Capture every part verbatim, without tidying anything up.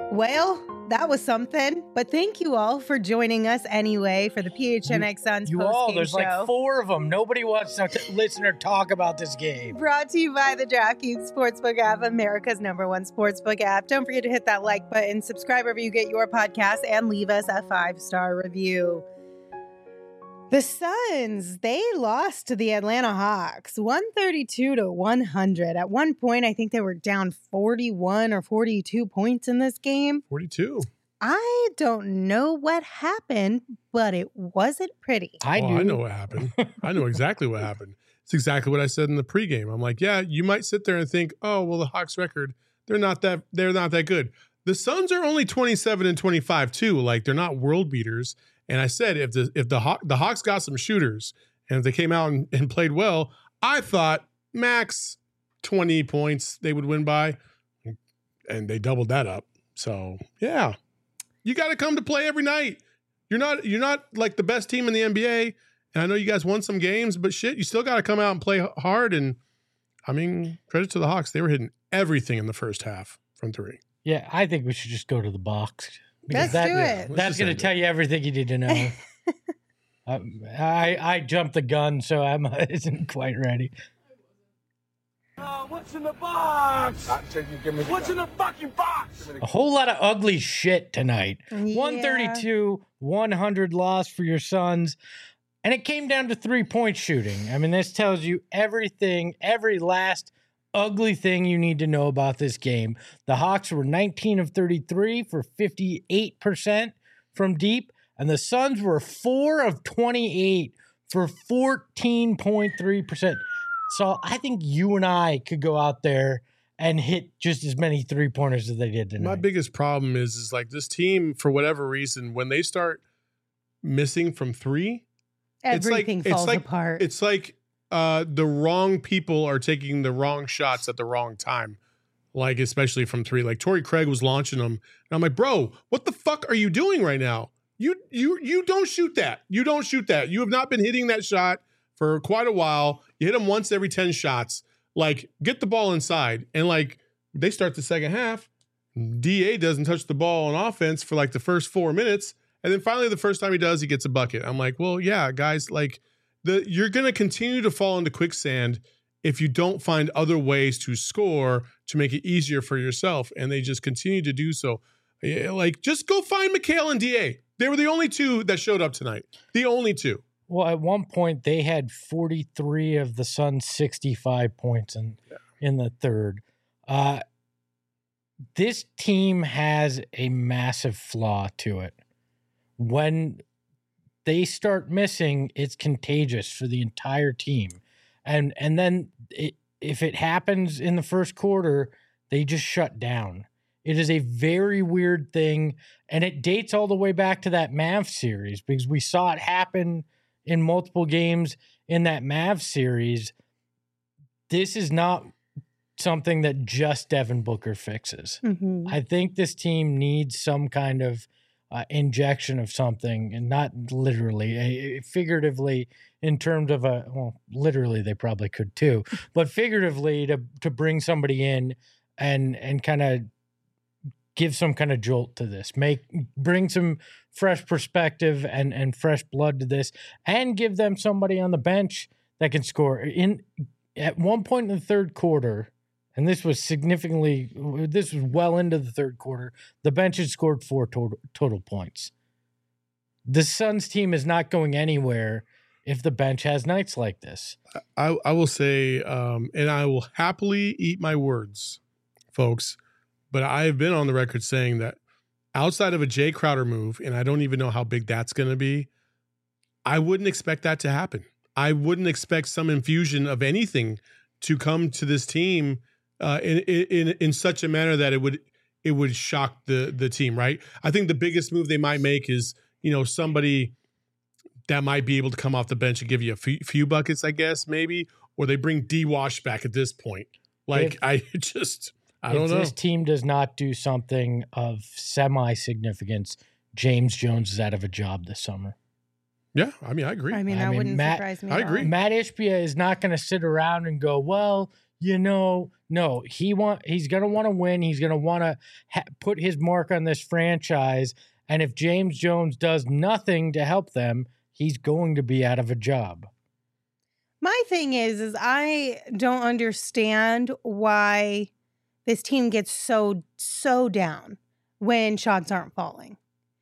Well, that was something. But thank you all for joining us anyway for the P H N X Suns You post-game all, there's show. like four of them. Nobody wants to t- listen or talk about this game. Brought to you by the DraftKings Sportsbook app, America's number one sportsbook app. Don't forget to hit that like button, subscribe wherever you get your podcast, and leave us a five-star review. The Suns, they lost to the Atlanta Hawks, one thirty-two to one hundred. At one point, I think they were down forty-one or forty-two points in this game. forty-two. I don't know what happened, but it wasn't pretty. I oh, do. I know what happened. I know exactly what happened. It's exactly what I said in the pregame. I'm like, yeah, you might sit there and think, oh, well, the Hawks record, they're not that they're not that good. The Suns are only twenty-seven and twenty-five too. Like, they're not world beaters. And I said, if the if the Haw- the Hawks got some shooters and if they came out and, and played well, I thought max twenty points they would win by, and they doubled that up. So yeah, you got to come to play every night. You're not you're not like the best team in the N B A, and I know you guys won some games, but shit, you still got to come out and play hard. And I mean, credit to the Hawks, they were hitting everything in the first half from three. Yeah, I think we should just go to the box. Let's that, do yeah, it. Let's That's just going to end tell it. you everything you need to know. um, I I jumped the gun, so I'm isn't quite ready. Uh, what's in the box? What's in the fucking box? A whole lot of ugly shit tonight. Yeah. one thirty-two, one hundred loss for your Suns. And it came down to three-point shooting. I mean, this tells you everything, every last ugly thing you need to know about this game. The Hawks were nineteen of thirty-three for fifty-eight percent from deep, and the Suns were four of twenty-eight for fourteen point three percent. So I think you and I could go out there and hit just as many three-pointers as they did tonight. My biggest problem is is like this team, for whatever reason, when they start missing from three, Everything it's like, falls it's like, apart. It's like uh, the wrong people are taking the wrong shots at the wrong time. Like, especially from three. Like, Torrey Craig was launching them. And I'm like, bro, what the fuck are you doing right now? You you you don't shoot that. You don't shoot that. You have not been hitting that shot for quite a while. You hit them once every ten shots. Like, get the ball inside. And, like, they start the second half. D A doesn't touch the ball on offense for, like, the first four minutes. And then finally, the first time he does, he gets a bucket. I'm like, well, yeah, guys, like, the you're going to continue to fall into quicksand if you don't find other ways to score to make it easier for yourself. And they just continue to do so. Yeah, like, just go find McHale and D A. They were the only two that showed up tonight. The only two. Well, at one point they had forty-three of the Suns' sixty-five points in Yeah. in the third. Uh, this team has a massive flaw to it. When they start missing, it's contagious for the entire team. And and then it, if it happens in the first quarter, they just shut down. It is a very weird thing, and it dates all the way back to that Mavs series because we saw it happen in multiple games in that Mavs series. This is not something that just Devin Booker fixes. Mhm. I think this team needs some kind of uh, injection of something, and not literally, a, a- figuratively, in terms of a, well, literally they probably could too, but figuratively to to bring somebody in and and kind of give some kind of jolt to this, make bring some fresh perspective and and fresh blood to this, and give them somebody on the bench that can score. In at one point in the third quarter, and this was significantly, this was well into the third quarter, the bench had scored four total, total points. The Suns team is not going anywhere if the bench has nights like this. I, I will say, um, and I will happily eat my words, folks, but I have been on the record saying that outside of a Jay Crowder move, and I don't even know how big that's going to be, I wouldn't expect that to happen. I wouldn't expect some infusion of anything to come to this team uh, in, in in such a manner that it would it would shock the the team, right? I think the biggest move they might make is, you know, somebody that might be able to come off the bench and give you a few, few buckets, I guess, maybe, or they bring D Wash back at this point. Like, If- I just, I if don't know. this team does not do something of semi-significance, James Jones is out of a job this summer. Yeah, I mean, I agree. I mean, I that mean, wouldn't Matt- surprise me. I at all. agree. Matt Ishbia is not going to sit around and go, well, you know, no, he want he's going to want to win. He's going to want to ha- put his mark on this franchise. And if James Jones does nothing to help them, he's going to be out of a job. My thing is, is I don't understand why this team gets so, so down when shots aren't falling.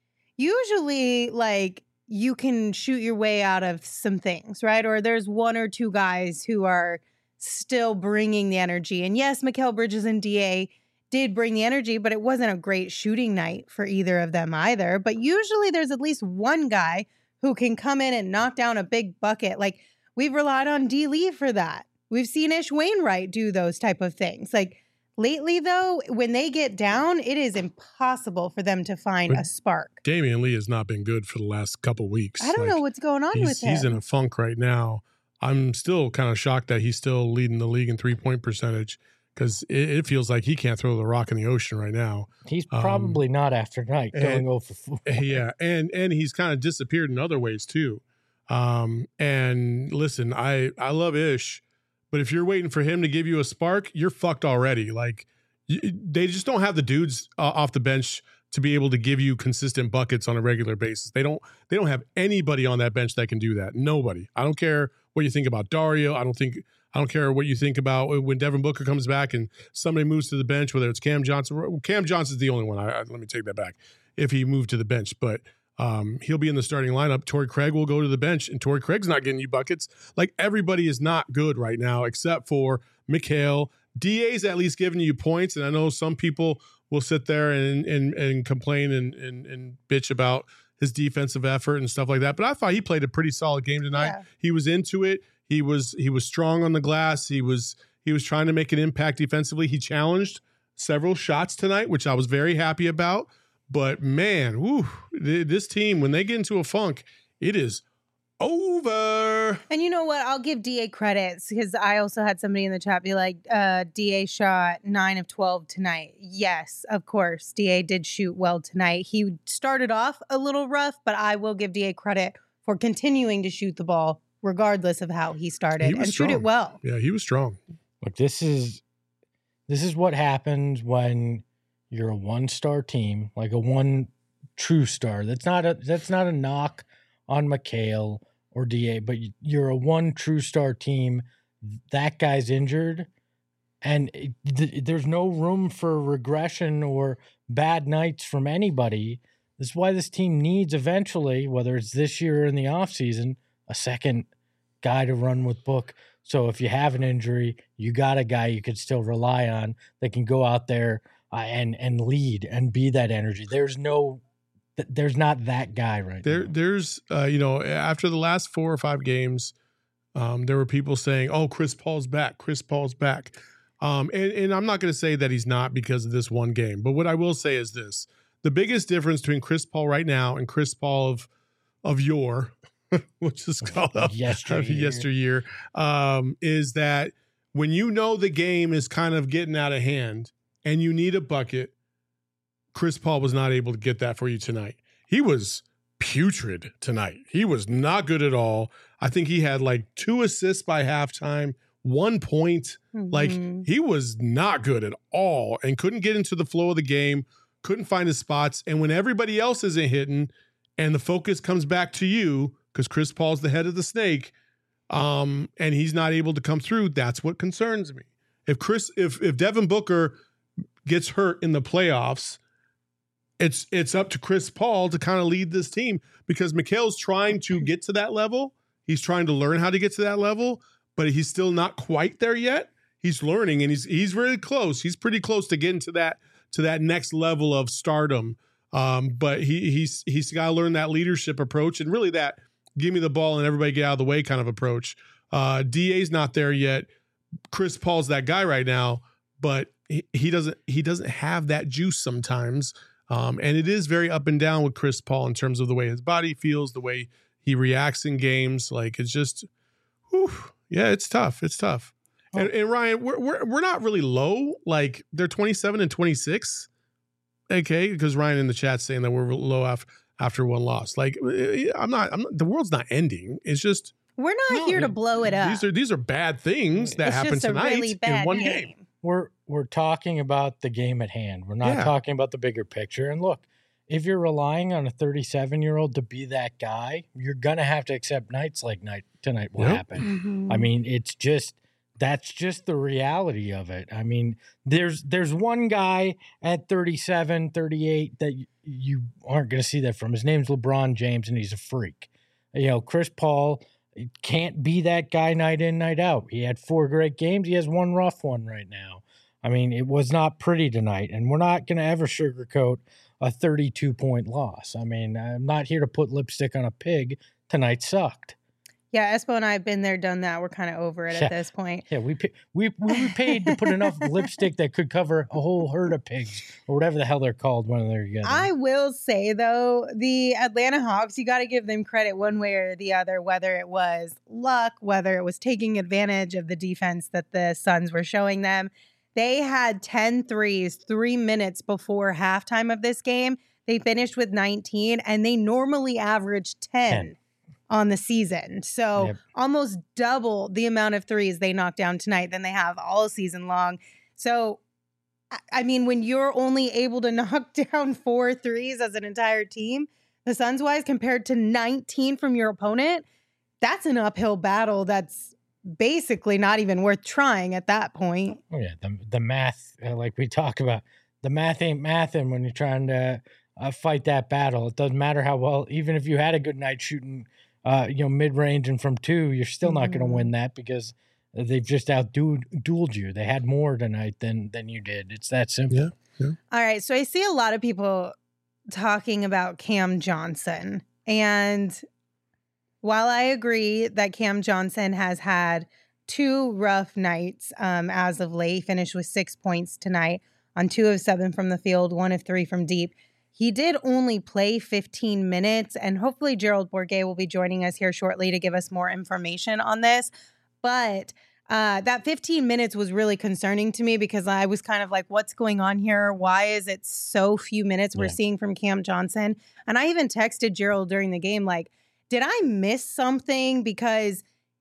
Usually, like, you can shoot your way out of some things, right? Or there's one or two guys who are still bringing the energy. And yes, Mikal Bridges and D A did bring the energy, but it wasn't a great shooting night for either of them either. But usually there's at least one guy who can come in and knock down a big bucket. Like, we've relied on D. Lee for that. We've seen Ish Wainwright do those type of things. Like, lately, though, when they get down, it is impossible for them to find But a spark. Damian Lee has not been good for the last couple weeks. I don't Like, know what's going on he's, with him. he's in a funk right now. I'm still kind of shocked that he's still leading the league in three-point percentage because it, it feels like he can't throw the rock in the ocean right now. He's Um, probably not after night going and- over four. Yeah, and and he's kind of disappeared in other ways too. Um, and listen, I I love Ish, but if you're waiting for him to give you a spark, you're fucked already. Like, y- they just don't have the dudes uh, off the bench to be able to give you consistent buckets on a regular basis. They don't they don't have anybody on that bench that can do that. Nobody. I don't care what you think about Dario. I don't think I don't care what you think about when Devin Booker comes back and somebody moves to the bench, whether it's Cam Johnson. Cam Johnson's the only one. I, I, let me take that back. If he moved to the bench, but um, he'll be in the starting lineup. Torrey Craig will go to the bench, and Torrey Craig's not getting you buckets. Like, everybody is not good right now except for Mikal. D A's at least giving you points, and I know some people will sit there and and and complain and and, and bitch about his defensive effort and stuff like that. But I thought he played a pretty solid game tonight. Yeah. He was into it. He was he was strong on the glass. He was he was trying to make an impact defensively. He challenged several shots tonight, which I was very happy about. But man, whew, th- this team, when they get into a funk, it is over. And you know what? I'll give D A credits because I also had somebody in the chat be like, uh, D A shot nine of twelve tonight. Yes, of course. D A did shoot well tonight. He started off a little rough, but I will give D A credit for continuing to shoot the ball regardless of how he started He was and shoot it strong. well. Yeah, he was strong. Look, this is this is what happens when you're a one-star team, like a one true star. That's not a that's not a knock on Mikal or D A, but you're a one true star team. That guy's injured, and it, th- there's no room for regression or bad nights from anybody. This is why this team needs eventually, whether it's this year or in the offseason, a second guy to run with Book. So if you have an injury, you got a guy you could still rely on that can go out there uh, and and lead and be that energy. There's no, th- there's not that guy right There, now. there's, uh, you know, after the last four or five games, um, there were people saying, "Oh, Chris Paul's back. Chris Paul's back." Um, and, and I'm not going to say that he's not because of this one game, but what I will say is this: the biggest difference between Chris Paul right now and Chris Paul of of yore, which is called of Yesteryear. yesteryear, um, is that when you know the game is kind of getting out of hand and you need a bucket, Chris Paul was not able to get that for you tonight. He was putrid tonight. He was not good at all. I think he had like two assists by halftime, one point. Like, Mhm. he was not good at all and couldn't get into the flow of the game, couldn't find his spots. And when everybody else isn't hitting and the focus comes back to you, because Chris Paul's the head of the snake, um, and he's not able to come through, that's what concerns me. If Chris, if if Devin Booker gets hurt in the playoffs, it's it's up to Chris Paul to kind of lead this team, because Mikal's trying to get to that level. He's trying to learn how to get to that level, but he's still not quite there yet. He's learning, and he's he's really close. He's pretty close to getting to that to that next level of stardom. Um, but he he's he's got to learn that leadership approach, and really that give me the ball and everybody get out of the way kind of approach. Uh, D A's not there yet. Chris Paul's that guy right now, but he, he doesn't he doesn't have that juice sometimes. Um, and it is very up and down with Chris Paul in terms of the way his body feels, the way he reacts in games. Like, it's just, whew, yeah, it's tough. It's tough. Oh. And, and Ryan, we're, we're we're not really low. Like, they're twenty-seven and twenty-six. Okay, because Ryan in the chat saying that we're low after after one loss. Like, I'm not. I'm not. The world's not ending. It's just We're not No, here to it- blow it up. These are these are bad things that it's happen just a tonight really bad in one game. game. We're we're talking about the game at hand. We're not Yeah. talking about the bigger picture. And look, if you're relying on a thirty-seven-year-old to be that guy, you're gonna have to accept nights like night tonight will Yep. happen. Mhm. I mean, it's just that's just the reality of it. I mean, there's there's one guy at thirty-seven, thirty-eight that y- you aren't going to see that from. His name's LeBron James, and he's a freak. You know, Chris Paul can't be that guy night in, night out. He had four great games. He has one rough one right now. I mean, it was not pretty tonight, and we're not going to ever sugarcoat a thirty-two point loss. I mean, I'm not here to put lipstick on a pig. Tonight sucked. Yeah, Espo and I have been there, done that. We're kind of over it Yeah. at this point. Yeah, we pa- we we were paid to put enough lipstick that could cover a whole herd of pigs or whatever the hell they're called when they're together. I will say, though, the Atlanta Hawks, you got to give them credit one way or the other, whether it was luck, whether it was taking advantage of the defense that the Suns were showing them. They had ten threes three minutes before halftime of this game. They finished with nineteen, and they normally average ten. ten. On the season. So Yep. almost double the amount of threes they knocked down tonight than they have all season long. So, I- I mean, when you're only able to knock down four threes as an entire team, the Suns wise, compared to nineteen from your opponent, that's an uphill battle that's basically not even worth trying at that point. Oh yeah, the the math, uh, like we talk about, the math ain't mathing when you're trying to uh, fight that battle. It doesn't matter how well, even if you had a good night shooting, uh, you know, mid range and from two, you're still not going to Mhm. win that because they've just outdueled you. They had more tonight than than you did. It's that simple. Yeah. All right. So I see a lot of people talking about Cam Johnson. And while I agree that Cam Johnson has had two rough nights um, as of late, he finished with six points tonight on two of seven from the field, one of three from deep. He did only play fifteen minutes, and hopefully Gerald Bourguet will be joining us here shortly to give us more information on this. But uh, that fifteen minutes was really concerning to me because I was kind of like, what's going on here? Why is it so few minutes we're Yeah. seeing from Cam Johnson? And I even texted Gerald during the game, like, did I miss something? Because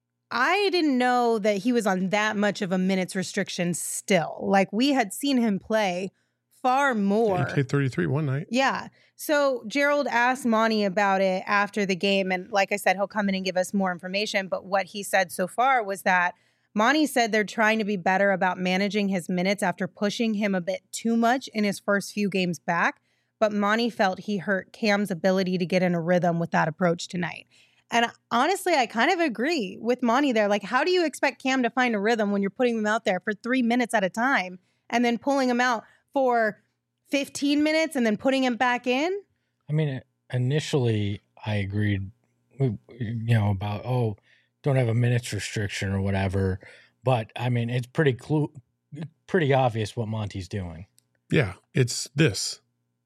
I didn't know that he was on that much of a minutes restriction still. Like, we had seen him play far more. He played thirty-three one night. Yeah. So Gerald asked Monty about it after the game. And like I said, he'll come in and give us more information. But what he said so far was that Monty said they're trying to be better about managing his minutes after pushing him a bit too much in his first few games back. But Monty felt he hurt Cam's ability to get in a rhythm with that approach tonight. And honestly, I kind of agree with Monty there. Like, how do you expect Cam to find a rhythm when you're putting him out there for three minutes at a time and then pulling him out for fifteen minutes and then putting him back in? I mean, initially I agreed, you know, about, oh, don't have a minutes restriction or whatever. But I mean, it's pretty clu- pretty obvious what Monty's doing. Yeah, it's this.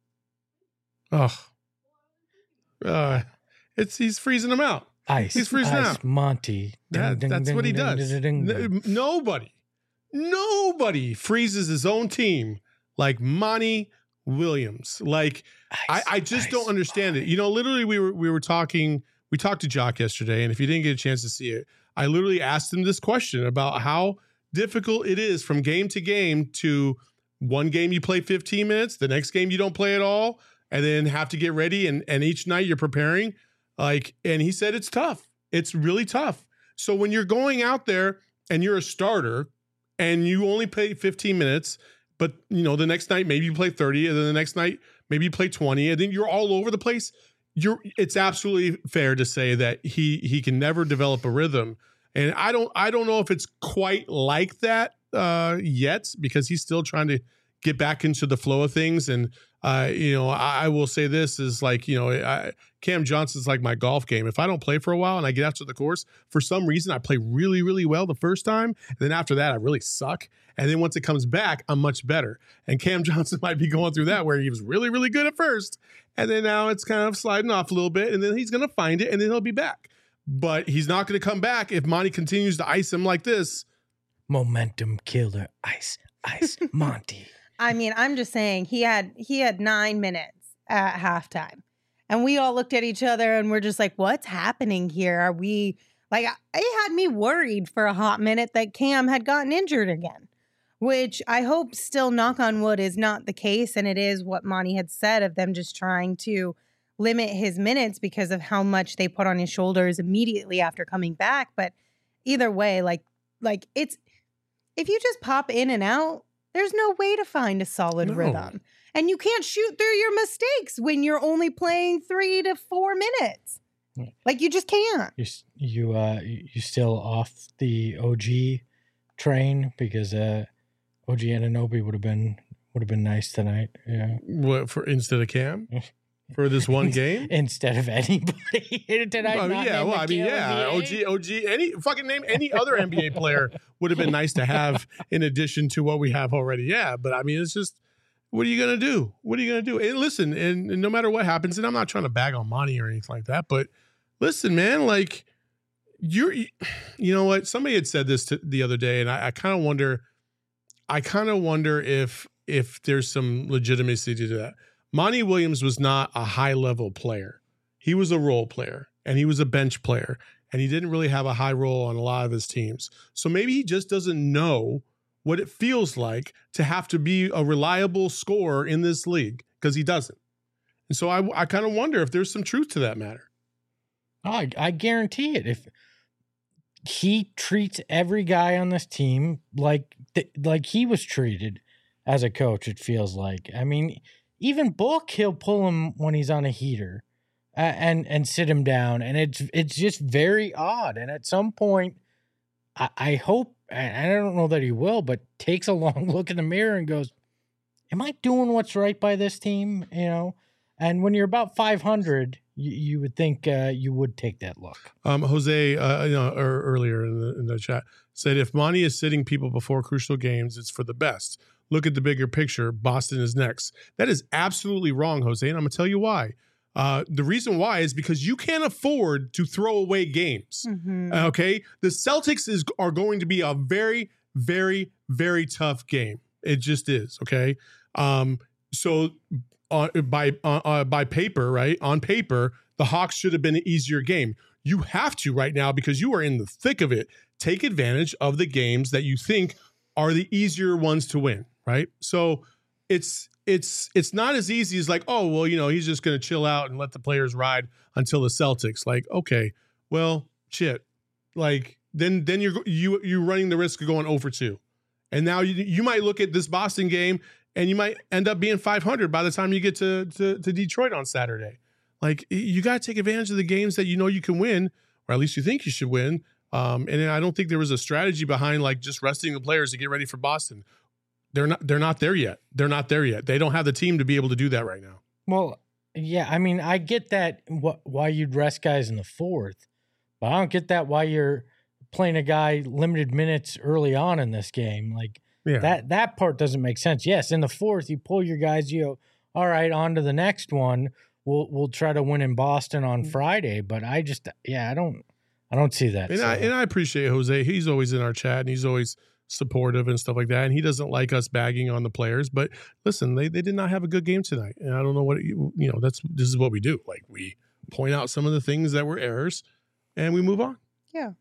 Oh, uh, it's he's freezing them out. Ice. He's freezing ice, out. Monty. That, Ding, that's ding, what he ding, does. ding, ding, ding. N- Nobody, nobody freezes his own team like Monty Williams. Like I, Ice, I just ice, don't understand it. You know, literally, we were we were talking. We talked to Jock yesterday, and if you didn't get a chance to see it, I literally asked him this question about how difficult it is from game to game to one game you play fifteen minutes, the next game you don't play at all, and then have to get ready, and and each night you're preparing. Like, and he said it's tough. It's really tough. So when you're going out there and you're a starter and you only play fifteen minutes, but you know, the next night maybe you play thirty, and then the next night maybe you play twenty, and then you're all over the place. You're it's absolutely fair to say that he he can never develop a rhythm. And I don't I don't know if it's quite like that uh, yet, because he's still trying to get back into the flow of things. And uh, you know, I, I will say this is like, you know, I, Cam Johnson's like my golf game. If I don't play for a while and I get out to the course, for some reason I play really, really well the first time. And then after that, I really suck. And then once it comes back, I'm much better. And Cam Johnson might be going through that, where he was really, really good at first. And then now it's kind of sliding off a little bit. And then he's going to find it, and then he'll be back. But he's not going to come back if Monty continues to ice him like this. Momentum killer. Ice, ice, Monty. I mean, I'm just saying he had he had nine minutes at halftime. And we all looked at each other and we're just like, what's happening here? Are we Like, it had me worried for a hot minute that Cam had gotten injured again, which I hope still, knock on wood, is not the case. And it is what Monty had said of them just trying to limit his minutes because of how much they put on his shoulders immediately after coming back. But either way, like, like it's, if you just pop in and out, there's no way to find a solid No. rhythm. And you can't shoot through your mistakes when you're only playing three to four minutes. Like, you just can't. You s- you uh you still off the O G train because uh O G Anunoby would have been would have been nice tonight. Yeah. What, for instead of Cam for this one game? Instead of anybody tonight. Well, not yeah, named well, I mean, Mikal yeah, N O B A. G, O G, any fucking name, any other N B A player would have been nice to have in addition to what we have already. Yeah, but I mean, it's just, what are you gonna do? What are you gonna do? And listen, and, and no matter what happens, and I'm not trying to bag on Monty or anything like that, but listen, man, like you're, you know what? Somebody had said this to, the other day, and I, I kind of wonder, I kind of wonder if if there's some legitimacy to that. Monty Williams was not a high level player. He was a role player and he was a bench player and he didn't really have a high role on a lot of his teams. So maybe he just doesn't know what it feels like to have to be a reliable scorer in this league because he doesn't. And so I, I kind of wonder if there's some truth to that matter. Oh, I, I guarantee it. If he treats every guy on this team like th- like he was treated as a coach, it feels like. I mean, even Book, he'll pull him when he's on a heater uh, and and sit him down, and it's it's just very odd. And at some point, I, I hope, and I don't know that he will, but takes a long look in the mirror and goes, "Am I doing what's right by this team?" You know. And when you're about five hundred, you, you would think uh, you would take that look. Um, Jose, uh, you know, or earlier in the, in the chat said, if Monty is sitting people before crucial games, it's for the best. Look at the bigger picture. Boston is next. That is absolutely wrong, Jose, and I'm going to tell you why. Uh, the reason why is because you can't afford to throw away games. Mm-hmm. Okay, the Celtics is are going to be a very, very, very tough game. It just is. Okay, um, so on by uh, uh, by paper, right? On paper, the Hawks should have been an easier game. You have to right now because you are in the thick of it. Take advantage of the games that you think are the easier ones to win. Right. So it's it's it's not as easy as like, oh, well, you know, he's just going to chill out and let the players ride until the Celtics. Like, OK, well, shit, like then then you're you you're running the risk of going oh for two. And now you, you might look at this Boston game and you might end up being five hundred by the time you get to, to, to Detroit on Saturday. Like, you got to take advantage of the games that you know you can win, or at least you think you should win. Um, and I don't think there was a strategy behind like just resting the players to get ready for Boston. They're not they're not there yet. They're not there yet. They don't have the team to be able to do that right now. Well, yeah, I mean, I get that wh- why you'd rest guys in the fourth, but I don't get that why you're playing a guy limited minutes early on in this game. Like Yeah. that that part doesn't make sense. Yes, in the fourth, you pull your guys, you go, all right, on to the next one. We'll we'll try to win in Boston on Friday, but I just yeah, I don't I don't see that. And so. I and I appreciate Jose. He's always in our chat and he's always supportive and stuff like that. And he doesn't like us bagging on the players. But listen, they, they did not have a good game tonight. And I don't know what you, you know, that's this is what we do. Like, we point out some of the things that were errors and we move on. Yeah.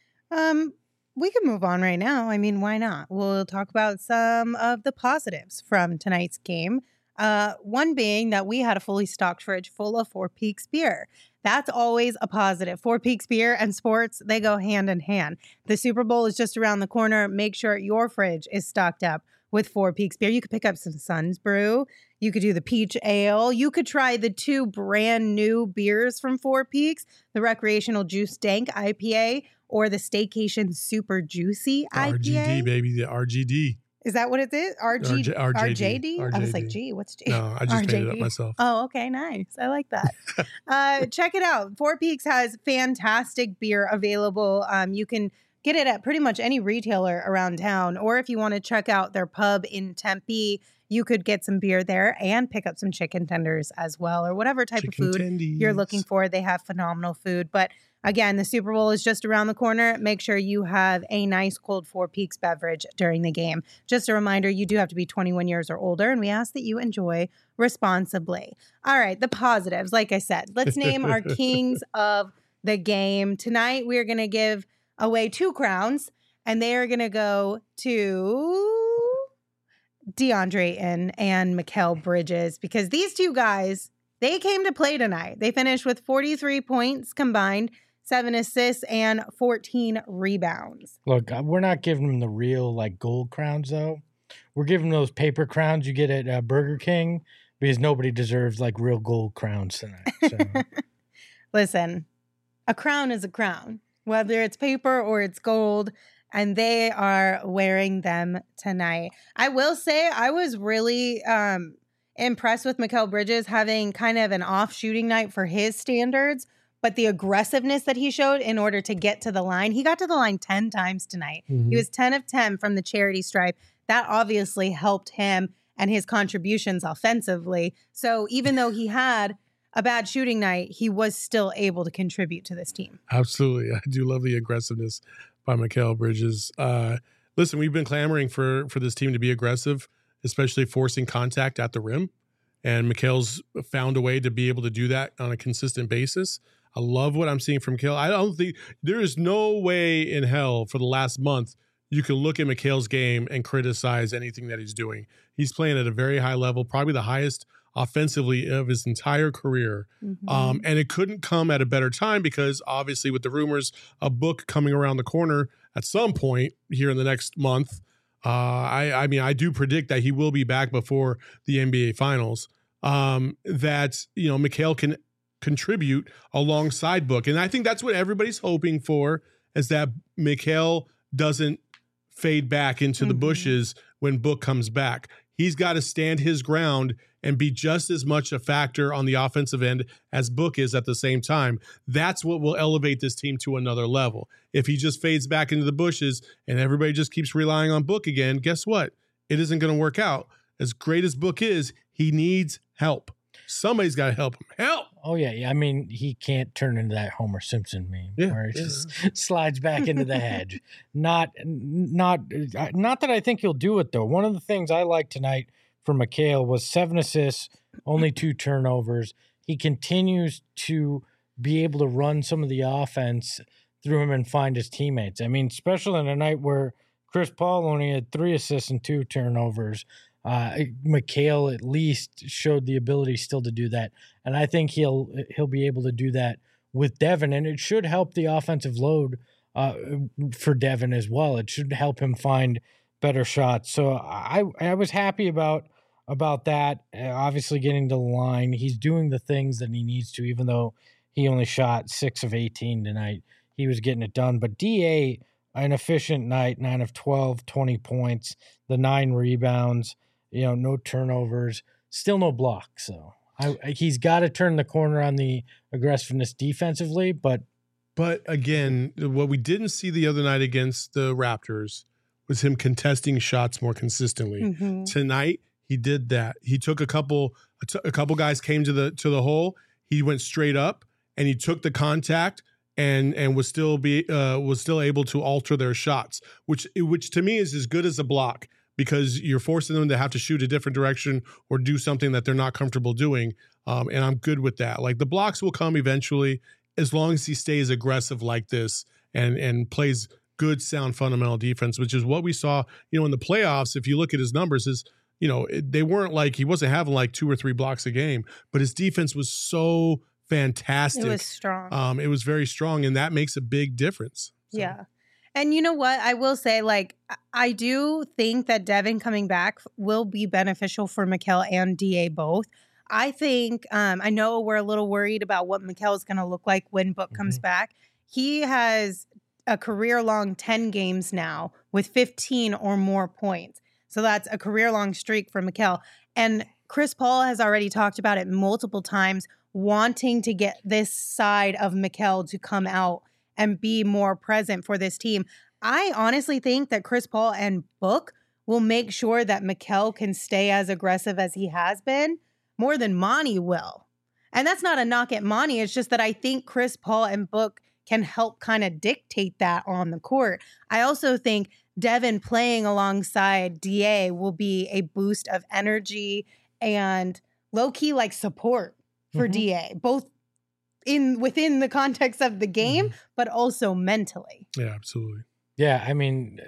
Um, we can move on right now. I mean, why not? We'll talk about some of the positives from tonight's game. Uh, one being that we had a fully stocked fridge full of Four Peaks beer. That's always a positive. Four Peaks beer and sports, they go hand in hand. The Super Bowl is just around the corner. Make sure your fridge is stocked up with Four Peaks beer. You could pick up some Suns Brew. You could do the peach ale. You could try the two brand new beers from Four Peaks, the Recreational Juice Dank I P A or the Staycation Super Juicy I P A. R G D, baby, the R G D. Is that what it is? R G, R J D. R J D? I was like, R J D. gee, what's G? No, I just made it up myself. Oh, okay, nice. I like that. uh, check it out. Four Peaks has fantastic beer available. Um, you can get it at pretty much any retailer around town. Or if you want to check out their pub in Tempe, you could get some beer there and pick up some chicken tenders as well, or whatever type Chicken of food tendies. you're looking for. They have phenomenal food. But again, the Super Bowl is just around the corner. Make sure you have a nice cold Four Peaks beverage during the game. Just a reminder, you do have to be twenty-one years or older, and we ask that you enjoy responsibly. All right, the positives. Like I said, let's name our kings of the game. Tonight, we're going to give away two crowns, and they are going to go to DeAndre and, and Mikal Bridges, because these two guys, they came to play tonight. They finished with forty-three points combined, seven assists, and fourteen rebounds. Look, we're not giving them the real, like, gold crowns, though. We're giving them those paper crowns you get at uh, Burger King, because nobody deserves, like, real gold crowns tonight. So. Listen, a crown is a crown, whether it's paper or it's gold, and they are wearing them tonight. I will say I was really um, impressed with Mikal Bridges having kind of an off shooting night for his standards, but the aggressiveness that he showed in order to get to the line, he got to the line ten times tonight. Mm-hmm. He was ten of ten from the charity stripe. That obviously helped him and his contributions offensively. So even though he had a bad shooting night, he was still able to contribute to this team. Absolutely. I do love the aggressiveness by Mikal Bridges. Uh, listen, we've been clamoring for, for this team to be aggressive, especially forcing contact at the rim. And Mikal's found a way to be able to do that on a consistent basis. I love what I'm seeing from Mikal. I don't think there is no way in hell for the last month you can look at Mikal's game and criticize anything that he's doing. He's playing at a very high level, probably the highest offensively of his entire career. Mm-hmm. Um, and it couldn't come at a better time because obviously with the rumors, a book coming around the corner at some point here in the next month, uh, I, I mean, I do predict that he will be back before the N B A Finals, um, that, you know, Mikal can contribute alongside Book. And I think that's what everybody's hoping for, is that Mikal doesn't fade back into mm-hmm. the bushes when Book comes back. He's got to stand his ground and be just as much a factor on the offensive end as Book is at the same time. That's what will elevate this team to another level. If he just fades back into the bushes and everybody just keeps relying on Book again, guess what? It isn't going to work out. As great as Book is, he needs help. Somebody's got to help him. Help! Oh, yeah, yeah. I mean, he can't turn into that Homer Simpson meme yeah, where he yeah. just slides back into the hedge. Not, not, not that I think he'll do it, though. One of the things I liked tonight for Mikal was seven assists, only two turnovers. He continues to be able to run some of the offense through him and find his teammates. I mean, especially on a night where Chris Paul only had three assists and two turnovers. Uh, Mikal at least showed the ability still to do that, and I think he'll he'll be able to do that with Devin, and it should help the offensive load uh, for Devin as well. It should help him find better shots. So I I was happy about about that. Uh, obviously, getting to the line, he's doing the things that he needs to, even though he only shot six of eighteen tonight. He was getting it done, but D A, an efficient night, nine of twelve, twenty points, the nine rebounds. You know, no turnovers, still no blocks. So I, I, he's got to turn the corner on the aggressiveness defensively. But but again, what we didn't see the other night against the Raptors was him contesting shots more consistently. Mm-hmm. Tonight, he did that. He took a couple, a, t- a couple guys came to the to the hole. He went straight up and he took the contact and and was still be uh, was still able to alter their shots, which which to me is as good as a block. Because you're forcing them to have to shoot a different direction or do something that they're not comfortable doing. Um, and I'm good with that. Like the blocks will come eventually as long as he stays aggressive like this and and plays good, sound, fundamental defense, which is what we saw, you know, in the playoffs. If you look at his numbers, is, you know, it, they weren't like, he wasn't having like two or three blocks a game, but his defense was so fantastic. It was strong. Um, it was very strong, and that makes a big difference. So. Yeah. And you know what? I will say, like, I do think that Devin coming back will be beneficial for Mikal and D A both. I think, um, I know we're a little worried about what Mikal is going to look like when Book mm-hmm. comes back. He has a career-long ten games now with fifteen or more points. So that's a career-long streak for Mikal. And Chris Paul has already talked about it multiple times, wanting to get this side of Mikal to come out and be more present for this team. I honestly think that Chris Paul and Book will make sure that Mikal can stay as aggressive as he has been more than Monty will. And that's not a knock at Monty. It's just that I think Chris Paul and Book can help kind of dictate that on the court. I also think Devin playing alongside D A will be a boost of energy and low-key like support for mm-hmm. D A, both in within the context of the game, Mhm. but also mentally. Yeah, absolutely. Yeah, I mean,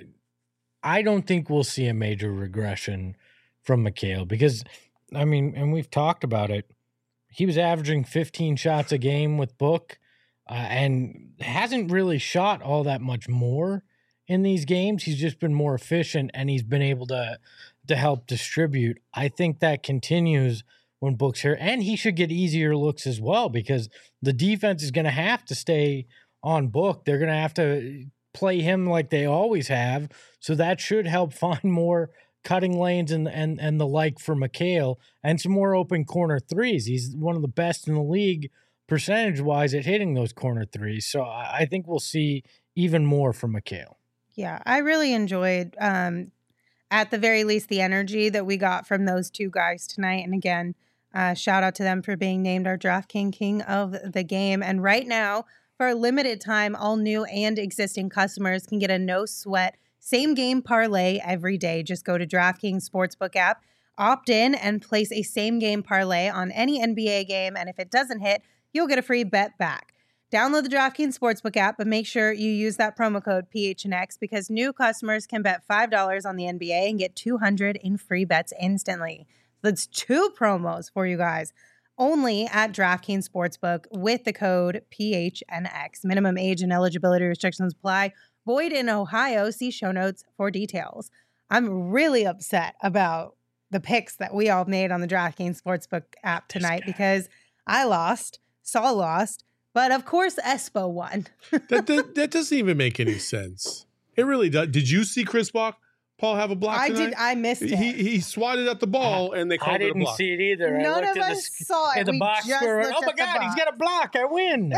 I don't think we'll see a major regression from Mikhail because, I mean, and we've talked about it. He was averaging fifteen shots a game with Book uh, and hasn't really shot all that much more in these games. He's just been more efficient and he's been able to to help distribute. I think that continues when Book's here, and he should get easier looks as well because the defense is going to have to stay on Book. They're going to have to play him like they always have, so that should help find more cutting lanes and and and the like for Mikhail and some more open corner threes. He's one of the best in the league percentage wise at hitting those corner threes. So I, I think we'll see even more from Mikhail. Yeah, I really enjoyed, um, at the very least, the energy that we got from those two guys tonight. And again, uh, shout out to them for being named our DraftKings King of the Game. And right now, for a limited time, all new and existing customers can get a no sweat same game parlay every day. Just go to DraftKings Sportsbook app, opt in, and place a same game parlay on any N B A game. And if it doesn't hit, you'll get a free bet back. Download the DraftKings Sportsbook app, but make sure you use that promo code P H N X because new customers can bet five dollars on the N B A and get two hundred dollars in free bets instantly. That's two promos for you guys. Only at DraftKings Sportsbook with the code P H N X. Minimum age and eligibility restrictions apply. Void in Ohio. See show notes for details. I'm really upset about the picks that we all made on the DraftKings Sportsbook app tonight because I lost, Saul lost, but of course Espo won. that, that that doesn't even make any sense. It really does. Did you see Chris Block, Paul have a block I tonight? did. I missed it. He he swatted at the ball and they called I it a didn't block. see it either. I None looked of at us the, saw it. at the We box just score. looked Oh my at the God, he's box. got a block. I win.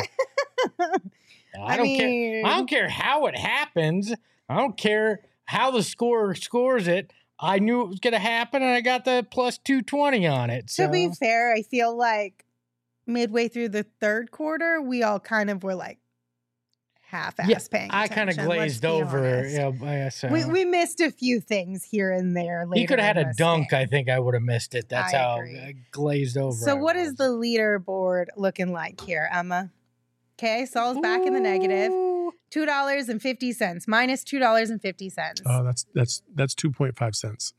I, I don't mean- care. I don't care how it happens. I don't care how the scorer scores it. I knew it was going to happen, and I got the plus two twenty on it. To So. be fair, I feel like midway through the third quarter, we all kind of were like half-ass Yeah, paying I kind of attention, let's glazed be over. honest. Yeah, I- so. We we missed a few things here and there. he could have had a dunk. I I think I would have missed it. That's I how agree. uh, glazed over. So, I what is was. the leaderboard looking like here, Emma? Okay, Saul's back in the negative. Ooh. Two dollars and fifty cents minus two dollars and fifty cents. Oh, that's that's that's two point five cents.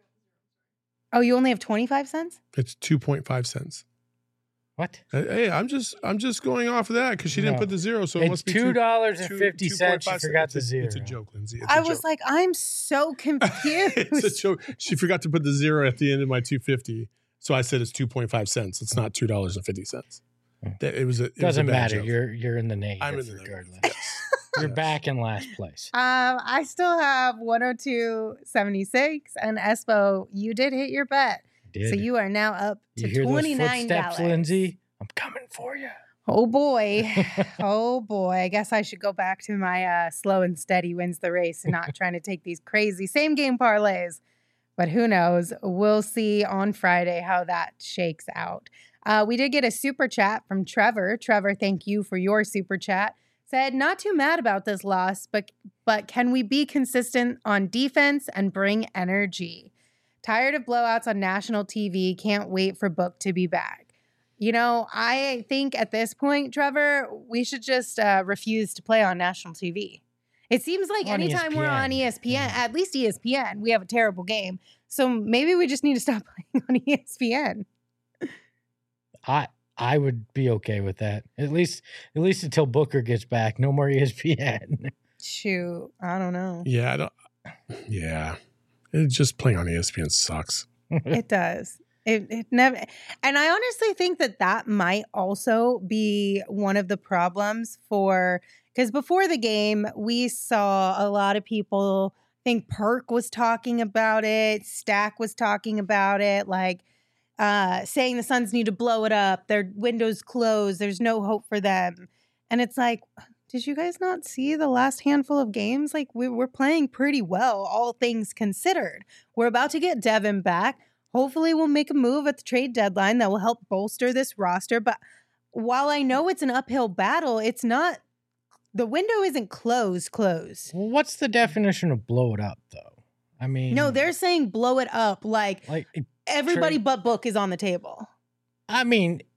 Oh, you only have twenty five cents. It's two point five cents. What? Hey, I'm just I'm just going off of that because she didn't No. put the zero, so it It's must be two dollars and two- fifty cents. You 2.5 forgot It's the a- zero. It's a joke, Lindsay. It's I a was joke. like, I'm so confused. it's a joke. She forgot to put the zero at the end of my two fifty, so I said it's two point five cents. It's not two dollars and fifty cents. It was a it was a Doesn't bad matter. joke. You're you're in the negative I'm in the negative. regardless. Yes. You're Yes. back in last place. Um, I still have one oh two seventy-six, and Espo, you did hit your bet, Did. so you are now up You to hear those twenty-nine footsteps, dollars. Lindsay? I'm coming for you. Oh boy, oh boy! I guess I should go back to my uh, slow and steady wins the race, and not trying to take these crazy same game parlays. But who knows? We'll see on Friday how that shakes out. Uh, we did get a super chat from Trevor. Trevor, thank you for your super chat. Said, not too mad about this loss, but but can we be consistent on defense and bring energy? Tired of blowouts on national T V. Can't wait for Book to be back. You know, I think at this point, Trevor, we should just uh, refuse to play on national T V. It seems like On anytime we're on E S P N, Yeah. at least E S P N, we have a terrible game. So maybe we just need to stop playing on E S P N. I I would be okay with that. At least at least until Booker gets back. No more E S P N. Shoot, I don't know. Yeah, I don't, yeah. It's just playing on E S P N sucks. It does. It, it never, and I honestly think that that might also be one of the problems for, because before the game, we saw a lot of people, I think Perk was talking about it, Stack was talking about it, like uh, saying the Suns need to blow it up, their windows closed, there's no hope for them. And it's like, did you guys not see the last handful of games? Like, we, we're playing pretty well, all things considered. We're about to get Devin back. Hopefully we'll make a move at the trade deadline that will help bolster this roster. But while I know it's an uphill battle, it's not, the window isn't closed, closed. Well, what's the definition of blow it up, though? I mean, No, they're saying blow it up like like. everybody trade- but Book is on the table. I mean,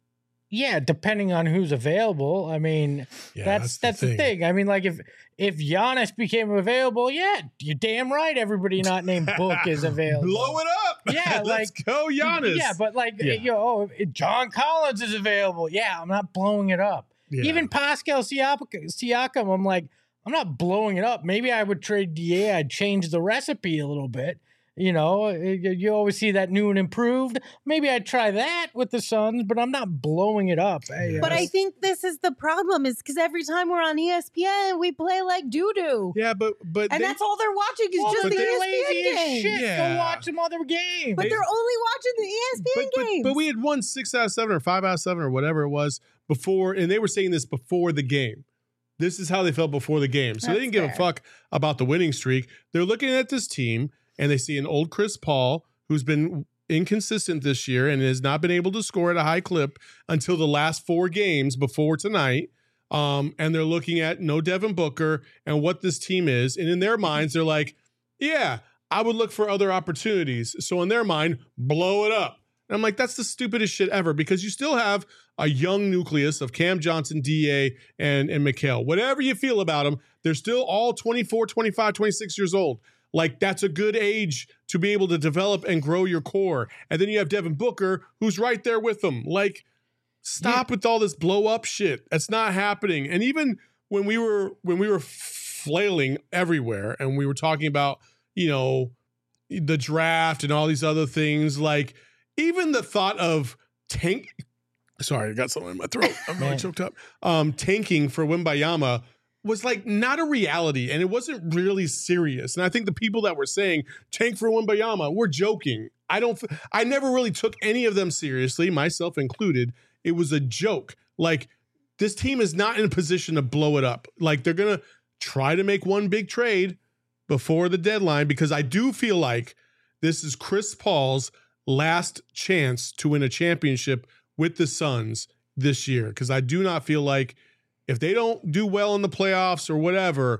Yeah, depending on who's available. I mean, Yeah, that's that's that's, the the, thing. thing. I mean, like if if Giannis became available, yeah, you're damn right. Everybody not named Book is available. Blow it up. Yeah, let's like- go, Giannis. Yeah, but like Yeah. you know, oh, if John Collins is available. Yeah, I'm not blowing it up. Yeah. Even Pascal Siak- Siakam, I'm like, I'm not blowing it up. Maybe I would trade D A. I'd change the recipe a little bit. You know, you you always see that new and improved. Maybe I'd try that with the Suns, but I'm not blowing it up. Hey, But uh, I think this is the problem is because every time we're on E S P N, we play like doo-doo. yeah, but but And they- that's all they're watching is well, just but the they're E S lazy P N as games. shit. Yeah. Go watch some other games. But they're only watching the E S P N but, but, games. but we had won six out of seven or five out of seven or whatever it was before, and they were saying this before the game. This is how they felt before the game. So That's they didn't give a fair. fuck about the winning streak. They're looking at this team and they see an old Chris Paul who's been inconsistent this year and has not been able to score at a high clip until the last four games before tonight. Um, and they're looking at no Devin Booker and what this team is. And in their minds, they're like, yeah, I would look for other opportunities. So in their mind, blow it up. And I'm like, that's the stupidest shit ever because you still have a young nucleus of Cam Johnson, D A, and, and Mikal. Whatever you feel about them, they're still all twenty-four, twenty-five, twenty-six years old. Like, that's a good age to be able to develop and grow your core. And then you have Devin Booker, who's right there with them. Like, stop with all this blow up shit. That's not happening. And even when we were when we were flailing everywhere and we were talking about, you know, the draft and all these other things, like even the thought of tank sorry, I got something in my throat. I'm really Man. choked up. Um, tanking for Wembayama was like not a reality and it wasn't really serious. And I think the people that were saying tank for Wembayama were joking. I don't, I never really took any of them seriously, myself included. It was a joke. Like, this team is not in a position to blow it up. Like, they're going to try to make one big trade before the deadline because I do feel like this is Chris Paul's last chance to win a championship with the Suns this year. Because I do not feel like if they don't do well in the playoffs or whatever,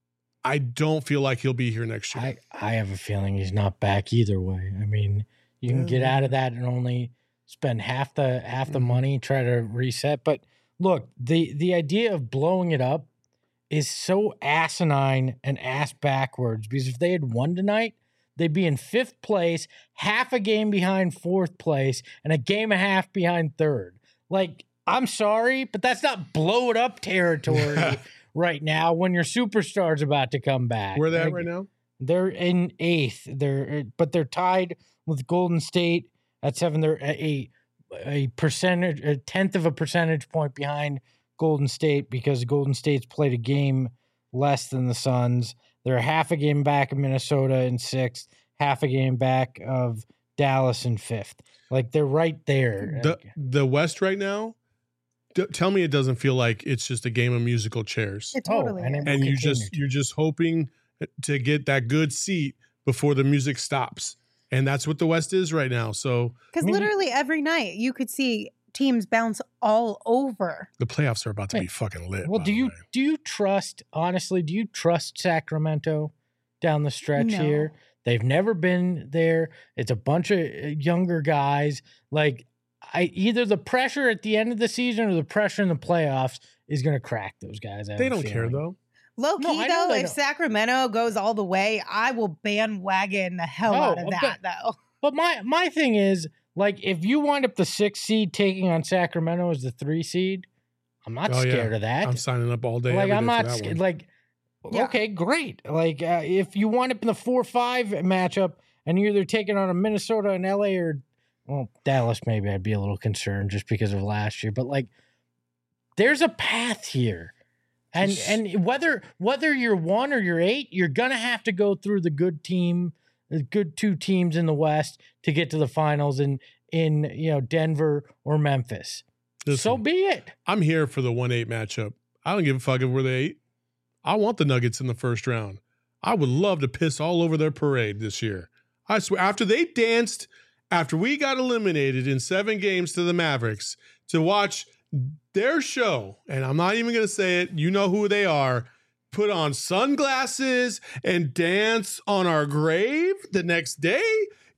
I don't feel like he'll be here next year. I, I have a feeling he's not back either way. I mean, you can get out of that and only spend half the half the Mhm. money, try to reset. But look, the the idea of blowing it up is so asinine and ass backwards because if they had won tonight, they'd be in fifth place, half a game behind fourth place, and a game and a half behind third. Like, I'm sorry, but that's not blow it up territory right now when your superstar's about to come back. Where are they at Like, right now? They're in eighth. They're but they're tied with Golden State at seven. They're a a percentage, a tenth of a percentage point behind Golden State because Golden State's played a game less than the Suns. They're half a game back of Minnesota in sixth, half a game back of Dallas in fifth. Like, they're right there. The, Like, the West right now, d- tell me it doesn't feel like it's just a game of musical chairs. It Oh, totally and is. it- And you continue just to. you're just hoping to get that good seat before the music stops. And that's what the West is right now. So Because I mean- literally every night you could see teams bounce all over. the playoffs are about to be Wait, fucking lit. well, by do the you way. do you trust honestly? Do you trust Sacramento down the stretch No. here? They've never been there. It's a bunch of uh, younger guys. Like, I either the pressure at the end of the season or the pressure in the playoffs is going to crack those guys. I have They a don't care feeling. though. Low No, key I know though, they if don't. Sacramento goes all the way, I will bandwagon the hell Oh, out of but- that though. But my my thing is, like, if you wind up the sixth seed taking on Sacramento as the three seed, I'm not Oh, yeah. scared of that. I'm signing up all day. like, every I'm day for not that scared. one. Like, Yeah. okay, great. Like, uh, if you wind up in the four five matchup and you're either taking on a Minnesota and L A or, well, Dallas, maybe I'd be a little concerned just because of last year. But, like, there's a path here. And Just- and whether whether you're one or you're eight, you're gonna have to go through the good team, the good two teams in the West to get to the finals in in you know Denver or Memphis. So Listen, be it. I'm here for the one eight matchup. I don't give a fuck if we're the eight. I want the Nuggets in the first round. I would love to piss all over their parade this year. I swear, after they danced, after we got eliminated in seven games to the Mavericks, to watch their show, and I'm not even going to say it, you know who they are, put on sunglasses and dance on our grave the next day.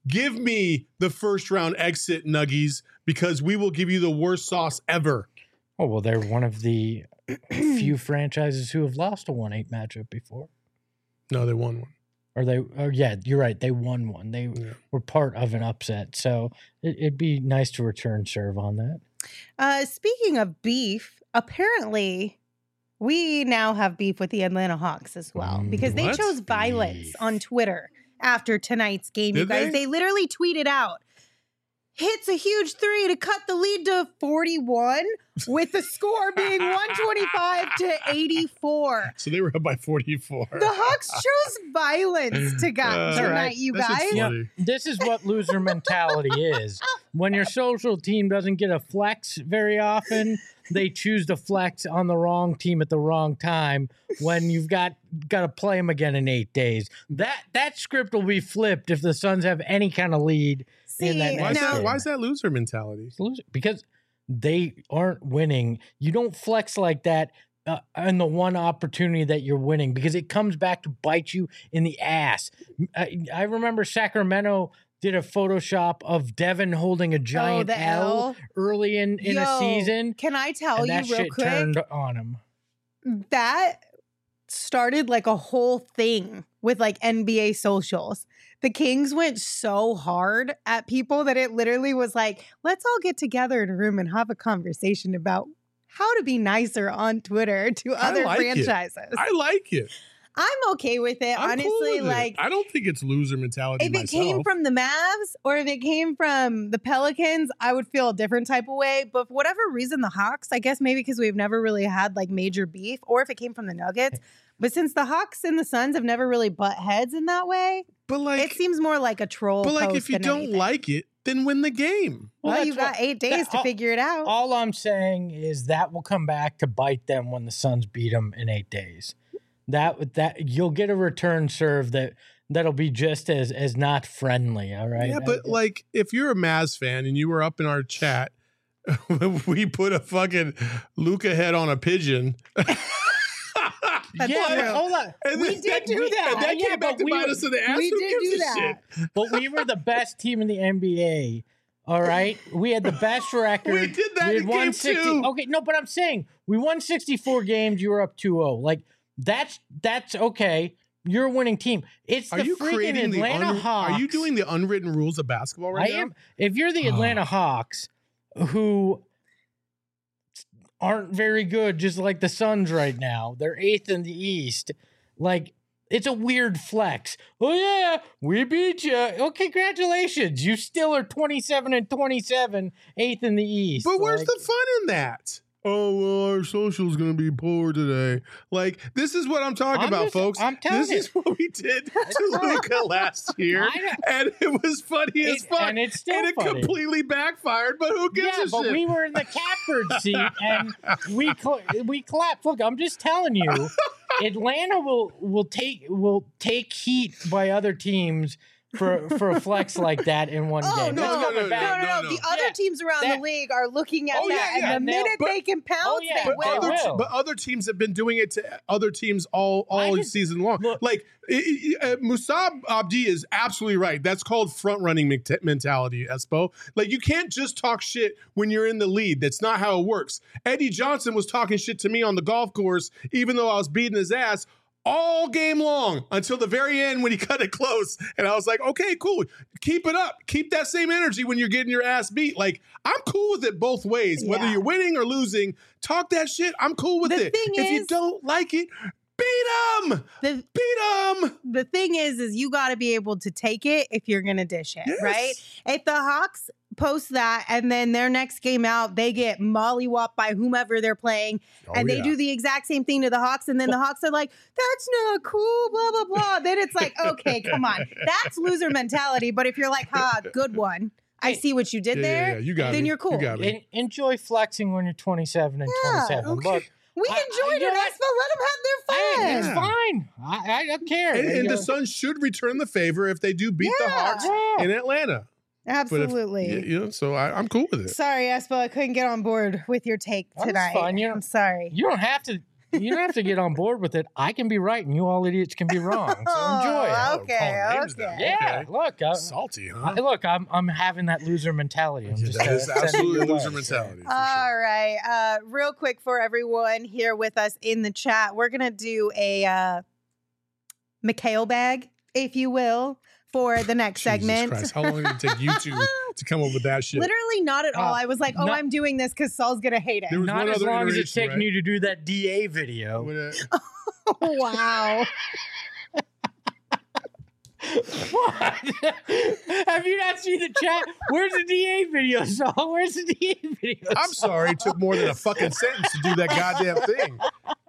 give me the first round exit, Nuggies, because we will give you the worst sauce ever. Oh, well, they're one of the few franchises who have lost a one eight matchup before. No, they won one. Or they, or yeah, you're right. They won one. They Yeah. were part of an upset. So it, it'd be nice to return serve on that. Uh, speaking of beef, apparently we now have beef with the Atlanta Hawks as well Mm, because they what? chose violence Beef. on Twitter after tonight's game. you Did guys, they? they literally tweeted out, hits a huge three to cut the lead to forty-one, with the score being one twenty-five to eighty-four. So they were up by forty-four. The Hawks chose violence to got Uh, tonight, right. you That shit's guys. Yeah. funny. This is what loser mentality is. When your social team doesn't get a flex very often, they choose to flex on the wrong team at the wrong time when you've got got to play them again in eight days. That that script will be flipped if the Suns have any kind of lead in See, that Why is, next now- that, game. why is that loser mentality? Loser- Because they aren't winning. You don't flex like that uh, in the one opportunity that you're winning because it comes back to bite you in the ass. I, I remember Sacramento did a Photoshop of Devin holding a giant Oh, the L, L? early in, in a Yo, season. Can I tell And you that real shit quick? turned on him. That started like a whole thing with like N B A socials. The Kings went so hard at people that it literally was like, let's all get together in a room and have a conversation about how to be nicer on Twitter to I other like it. franchises. I like it. I'm okay with it. I'm Honestly, cool with it. like I don't think it's loser mentality if it myself. came from the Mavs or if it came from the Pelicans, I would feel a different type of way. But for whatever reason, the Hawks, I guess maybe because we've never really had like major beef, or if it came from the Nuggets. But since the Hawks and the Suns have never really butt heads in that way, but like, it seems more like a troll. but like, post if you than don't anything. like it, then win the game. well, that's you got what- eight days that- to all- figure it out. All I'm saying is that will come back to bite them when the Suns beat them in eight days. That that you'll get a return serve that that'll be just as as not friendly. All right. Yeah, but like, if you're a Mavs fan and you were up in our chat, we put a fucking Luca head on a pigeon. That's yeah, true. but hold on. And We then- did do and that. that Yeah, came back but to we bite were- us in the ass. we Who did gives do a that. shit? But we were the best team in the N B A. All right, we had the best record. We did that We in had won game sixty. two. Okay, no, but I'm saying we won sixty-four games. You were up two oh. Like that's that's okay. You're a winning team. It's Are the you freaking creating the Atlanta un- Hawks. Are you doing the unwritten rules of basketball right I now? am. If you're the Atlanta Hawks, who aren't very good, just like the Suns right now, they're eighth in the East. Like it's a weird flex. Oh yeah, we beat you. Oh, congratulations! You still are twenty-seven and twenty-seven, eighth in the East. But where's Like, the fun in that? Oh, well, our social's going to be poor today. Like, this is what I'm talking I'm about, just- folks. I'm telling this you. is what we did to Luca last year. I know. And it was funny as It- fuck. and it's still And it funny. completely backfired, but who gives Yeah, a but shit? we were in the catbird seat and we cl- we clapped. Look, I'm just telling you, Atlanta will will take will take heat by other teams for for a flex like that in one Oh, game. no, That's no, coming no, back. No, no, no. no, The no. other Yeah, teams around that- the league are looking at Oh, yeah, that, yeah, and the they'll- minute but- they can pounce, Oh, yeah, they But they will. other, will. te- but other teams have been doing it to other teams all all I just- season long. look- like I- I- uh, Musab Abdi is absolutely right. That's called front running mentality, Espo. Like you can't just talk shit when you're in the lead. That's not how it works. Eddie Johnson was talking shit to me on the golf course, even though I was beating his ass all game long until the very end when he cut it close. And I was like, okay, cool. Keep it up. Keep that same energy when you're getting your ass beat. Like, I'm cool with it both ways. Whether Yeah. you're winning or losing, talk that shit. I'm cool with The it. thing if you is- don't like it, beat them. The Beat them. the thing is, is you got to be able to take it if you're gonna dish it, Yes. right? If the Hawks post that and then their next game out, they get mollywopped by whomever they're playing, and they do the exact same thing to the Hawks, and then the Hawks are like, "That's not cool," blah blah blah. Then it's like, okay, come on, that's loser mentality. But if you're like, "Ha, good one," I Hey. see what you did Yeah, yeah, there. yeah, you got then me. you're cool. You got me. En- enjoy flexing when you're twenty-seven and Yeah, twenty-seven. okay. Look, We I- I- enjoyed you it. know Espo, let them have their fun. hey, it's Yeah. fine. I, I don't care. And, and You the know, Suns should return the favor if they do beat the Yeah. Hawks yeah. in Atlanta. But if- Absolutely. y- you know, so I, I'm cool with it. Sorry, Espo, I couldn't get on board with your take That's tonight. fine, you know- I'm sorry. You don't have to you don't have to get on board with it. I can be right and you all idiots can be wrong. So enjoy. Oh, Oh, okay, calling names okay. now. Yeah, Okay. look. I, Salty, huh? I- look, I'm I'm having that loser mentality. I'm Yeah, just that uh, is sending it absolutely your loser way, so. mentality. For All sure. right. Uh, real quick for everyone here with us in the chat, we're going to do a uh, Mikhail bag, if you will, for the next Jesus segment. Christ. How long did it take you two to come up with that shit? Literally not at all. Uh, I was like, oh, not- I'm doing this because Saul's going to hate it. There was Not one as other long as it's iteration, taking right? you to do that D A video. What, uh, Wow. What? Have you not seen the chat? Where's the D A video, Saul? Where's the D A video? I'm sorry, it took more than a fucking sentence to do that goddamn thing.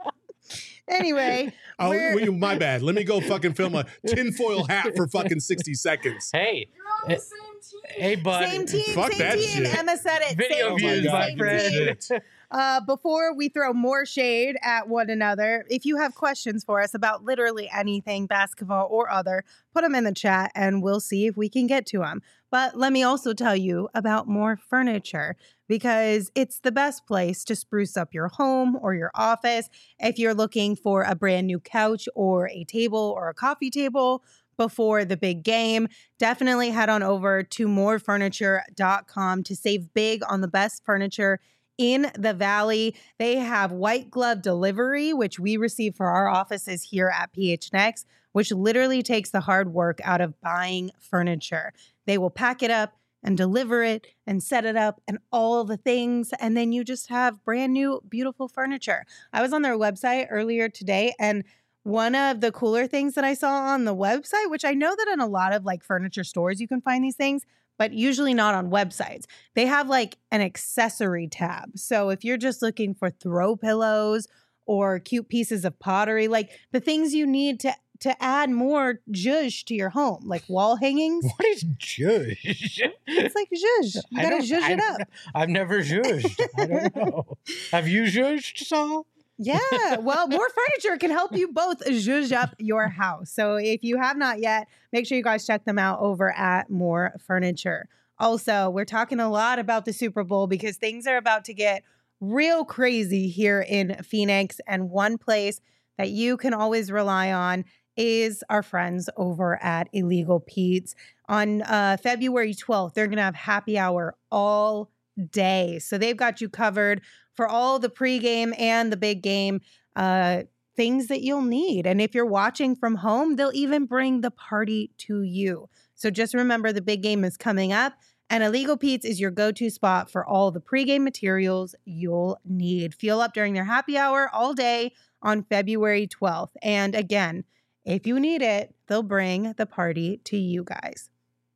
Anyway, Oh, we're- well, my bad. Let me go fucking film a tinfoil hat for fucking sixty seconds. Hey, You're on the eh, same team. hey, bud. same team, Fuck same that team. shit. Emma said it. Video same views, team, my same friend. team. Uh, before we throw more shade at one another, if you have questions for us about literally anything, basketball or other, put them in the chat and we'll see if we can get to them. But let me also tell you about More Furniture because it's the best place to spruce up your home or your office. If you're looking for a brand new couch or a table or a coffee table before the big game, definitely head on over to more furniture dot com to save big on the best furniture in the Valley. They have white glove delivery, which we receive for our offices here at P H N X, which literally takes the hard work out of buying furniture. They will pack it up and deliver it and set it up and all the things. And then you just have brand new, beautiful furniture. I was on their website earlier today, and one of the cooler things that I saw on the website, which I know that in a lot of like furniture stores, you can find these things, but usually not on websites. They have like an accessory tab. So if you're just looking for throw pillows or cute pieces of pottery, like the things you need to to add more zhuzh to your home, like wall hangings. What is zhuzh? It's like zhuzh. You I gotta don't- zhuzh I it don't up. know. I've never zhuzhed. I don't know. Have you zhuzhed, Saul? Yeah. Well, More Furniture can help you both zhuzh up your house. So if you have not yet, make sure you guys check them out over at More Furniture. Also, we're talking a lot about the Super Bowl because things are about to get real crazy here in Phoenix. And one place that you can always rely on is our friends over at Illegal Pete's. On uh, February twelfth, they're going to have happy hour all day. So they've got you covered for all the pregame and the big game uh, things that you'll need. And if you're watching from home, they'll even bring the party to you. So just remember the big game is coming up, and Illegal Pete's is your go-to spot for all the pregame materials you'll need. Fuel up during their happy hour all day on February twelfth. And again, if you need it, they'll bring the party to you guys.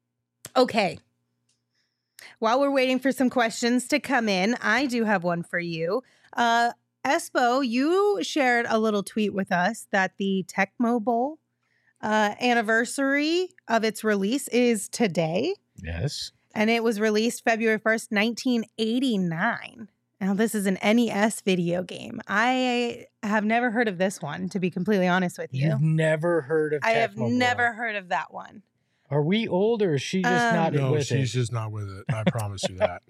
Okay. While we're waiting for some questions to come in, I do have one for you. Uh, Espo, you shared a little tweet with us that the Tecmo Bowl uh, anniversary of its release is today, Yes. and it was released February first, nineteen eighty-nine. Now, this is an N E S video game. I have never heard of this one, to be completely honest with you. You've never heard of I have Tecmo Bowl. never heard of that one. Are we old or is she just Um, not No, with she's it? just not with it. I promise you that.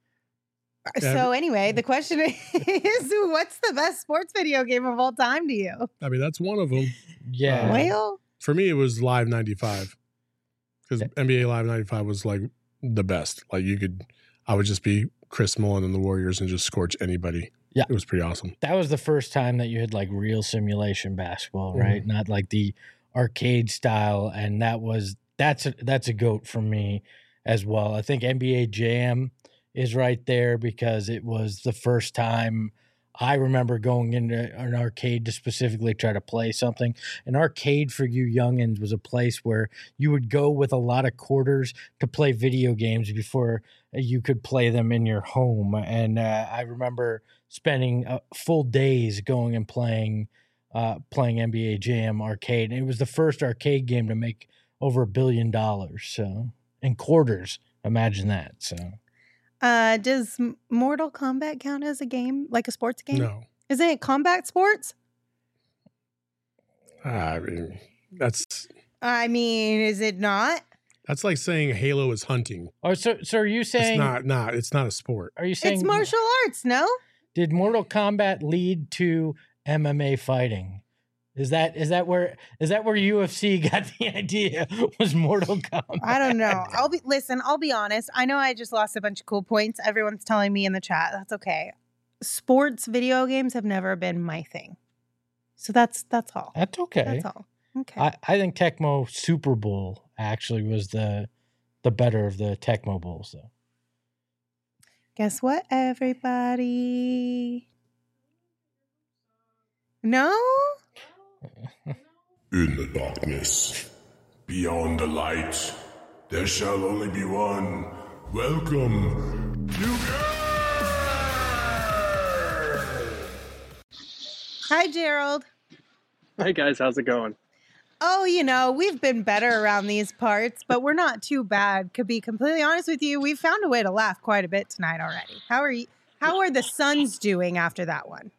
Yeah, So anyway, the question is, what's the best sports video game of all time to you? I mean, that's one of them. Yeah. Well, For me, it was Live ninety-five because N B A Live ninety-five was like the best. Like you could, I would just be Chris Mullin and the Warriors and just scorch anybody. Yeah. It was pretty awesome. That was the first time that you had like real simulation basketball, Mm-hmm. right? Not like the arcade style. And that was that's a, that's a goat for me as well. I think N B A Jam is right there because it was the first time I remember going into an arcade to specifically try to play something. An arcade for you youngins was a place where you would go with a lot of quarters to play video games before you could play them in your home. And uh, I remember spending uh, full days going and playing uh, playing N B A Jam arcade. And it was the first arcade game to make over a billion dollars. So in quarters, imagine that. So uh, does M- Mortal Kombat count as a game, like a sports game? No, Isn't it combat sports? I mean that's I mean, is it not? that's like saying Halo is hunting. oh, so so are you It's saying not. Not. It's not a sport. are you saying It's martial arts, no? did Mortal Kombat lead to M M A fighting. Is that is that where is that where U F C got the idea? Was Mortal Kombat? I don't know. I'll be listen, I'll be honest. I know I just lost a bunch of cool points. Everyone's telling me in the chat. That's okay. Sports video games have never been my thing. So that's that's all. That's okay. That's all. Okay. I, I think Tecmo Super Bowl actually was the the better of the Tecmo Bowls, though. Guess what, everybody? No? In the darkness, beyond the light, there shall only be one. Welcome, you Hi, Gerald. Hey guys, how's it going? Oh, you know, we've been better around these parts, but we're not too bad. To be completely honest with you, we've found a way to laugh quite a bit tonight already. How are you? How are the Suns doing after that one?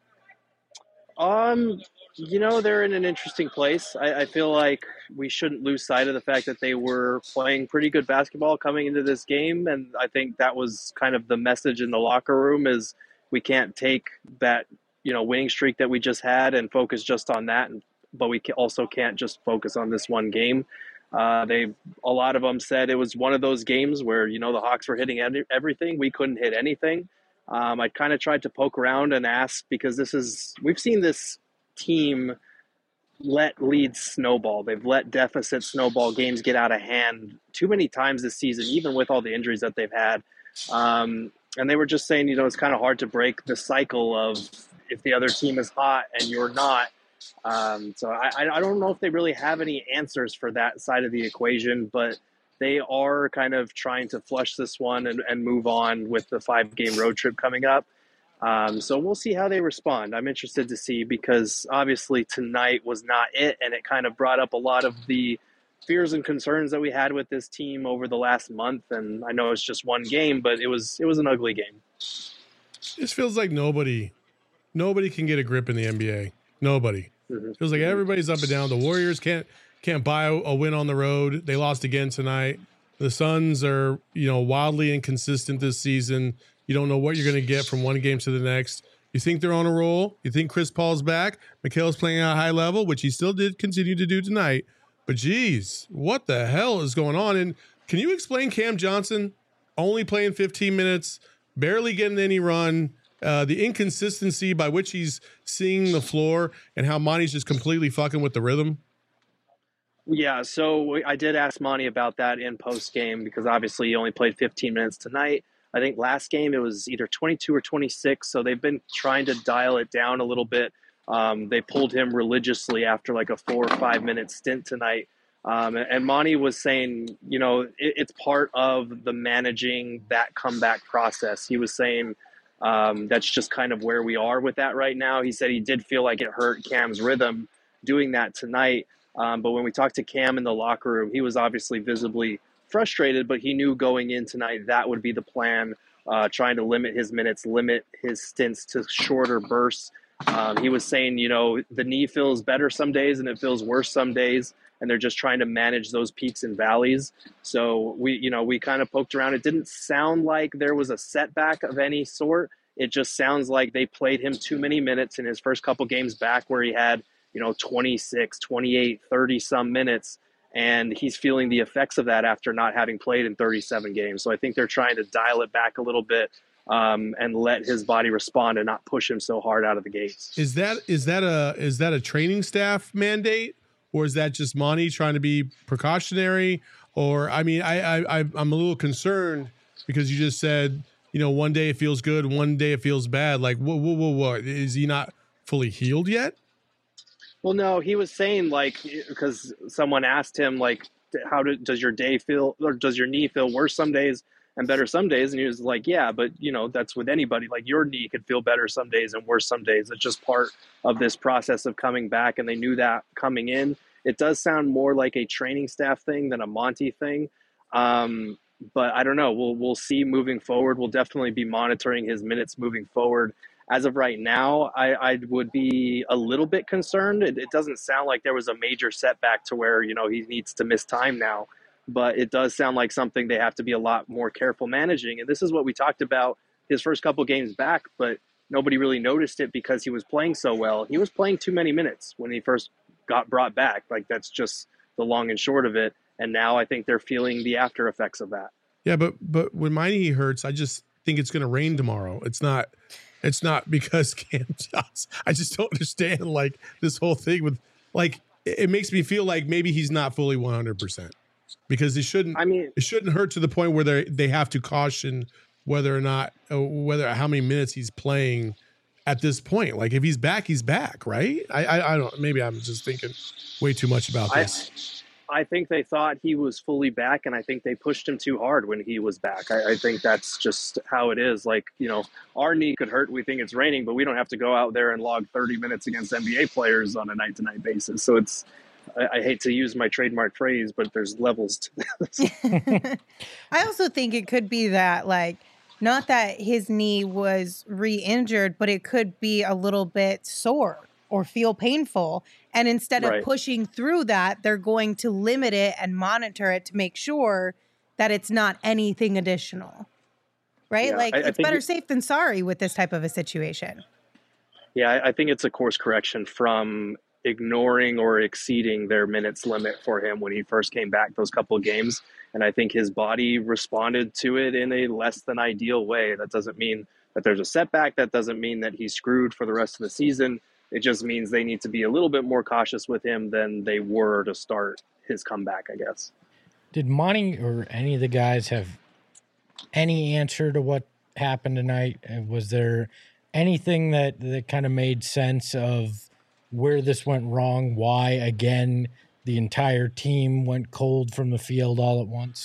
Um, you know, they're in an interesting place. I, I feel like we shouldn't lose sight of the fact that they were playing pretty good basketball coming into this game, and I think that was kind of the message in the locker room is we can't take that, you know, winning streak that we just had and focus just on that, and, but we also can't just focus on this one game. Uh, they, a lot of them said it was one of those games where, you know, the Hawks were hitting everything. We couldn't hit anything. Um, I kind of tried to poke around and ask because this is, we've seen this team let leads snowball. They've let deficit snowball, games get out of hand too many times this season, even with all the injuries that they've had. Um, and they were just saying, you know, it's kind of hard to break the cycle of if the other team is hot and you're not. Um, so I, I don't know if they really have any answers for that side of the equation, but they are kind of trying to flush this one and, and move on with the five-game road trip coming up. Um, so we'll see how they respond. I'm interested to see because obviously tonight was not it, and it kind of brought up a lot of the fears and concerns that we had with this team over the last month. And I know it's just one game, but it was it was an ugly game. This feels like nobody, nobody can get a grip in the N B A. Nobody. Mm-hmm. Feels like everybody's up and down. The Warriors can't can't buy a, a win on the road. They lost again tonight. The Suns are, you know, wildly inconsistent this season. You don't know what you're going to get from one game to the next. You think they're on a roll. You think Chris Paul's back. Mikhail's playing at a high level, which he still did continue to do tonight. But geez, what the hell is going on? And can you explain Cam Johnson only playing fifteen minutes, barely getting any run, uh, the inconsistency by which he's seeing the floor, and how Monty's just completely fucking with the rhythm? Yeah, so I did ask Monty about that in post game because obviously he only played fifteen minutes tonight. I think last game it was either twenty-two or twenty-six, so they've been trying to dial it down a little bit. Um, they pulled him religiously after like a four or five minute stint tonight. Um, and Monty was saying, you know, it, it's part of the managing that comeback process. He was saying um, that's just kind of where we are with that right now. He said he did feel like it hurt Cam's rhythm doing that tonight. Um, but when we talked to Cam in the locker room, he was obviously visibly frustrated, but he knew going in tonight that would be the plan, uh, trying to limit his minutes, limit his stints to shorter bursts. Um, he was saying, you know, the knee feels better some days and it feels worse some days, and they're just trying to manage those peaks and valleys. So we, you know, we kind of poked around. It didn't sound like there was a setback of any sort. It just sounds like they played him too many minutes in his first couple games back where he had, you know, twenty-six, twenty-eight, thirty some minutes. And he's feeling the effects of that after not having played in thirty-seven games. So I think they're trying to dial it back a little bit um, and let his body respond and not push him so hard out of the gates. Is that is that a is that a training staff mandate, or is that just Monty trying to be precautionary? Or I mean, I, I I'm a little concerned because you just said, you know, one day it feels good, one day it feels bad. Like, whoa, whoa, whoa, whoa, is he not fully healed yet? Well, no, he was saying, like, because someone asked him, like, how do, does your day feel, or does your knee feel worse some days and better some days? And he was like, yeah, but, you know, that's with anybody. Like, your knee could feel better some days and worse some days. It's just part of this process of coming back, and they knew that coming in. It does sound more like a training staff thing than a Monty thing. Um, but I don't know. We'll we'll see moving forward. We'll definitely be monitoring his minutes moving forward. As of right now, I, I would be a little bit concerned. It, it doesn't sound like there was a major setback to where, you know, he needs to miss time now. But it does sound like something they have to be a lot more careful managing. And this is what we talked about his first couple games back. But nobody really noticed it because he was playing so well. He was playing too many minutes when he first got brought back. Like, that's just the long and short of it. And now I think they're feeling the after effects of that. Yeah, but but when my knee hurts, I just think it's going to rain tomorrow. It's not. It's not because Cam Johnson. I just don't understand like this whole thing with like it makes me feel like maybe he's not fully one hundred percent because it shouldn't. I mean, it shouldn't hurt to the point where they they have to caution whether or not uh, whether how many minutes he's playing at this point. Like if he's back, he's back, right? I I, I don't. Maybe I'm just thinking way too much about this. I, I think they thought he was fully back, and I think they pushed him too hard when he was back. I, I think that's just how it is. Like, you know, our knee could hurt. We think it's raining, but we don't have to go out there and log thirty minutes against N B A players on a night-to-night basis. So it's, I, I hate to use my trademark phrase, but there's levels to this. I also think it could be that, like, not that his knee was re-injured, but it could be a little bit sore or feel painful. And instead of Right. pushing through that, they're going to limit it and monitor it to make sure that it's not anything additional. Right? Yeah, like, I- I it's think better it- safe than sorry with this type of a situation. Yeah, I, I think it's a course correction from ignoring or exceeding their minutes limit for him when he first came back those couple of games. And I think his body responded to it in a less than ideal way. That doesn't mean that there's a setback. That doesn't mean that he's screwed for the rest of the season. It just means they need to be a little bit more cautious with him than they were to start his comeback, I guess. Did Monty or any of the guys have any answer to what happened tonight? Uh, Was there anything that, that kind of made sense of where this went wrong? Why, again, the entire team went cold from the field all at once?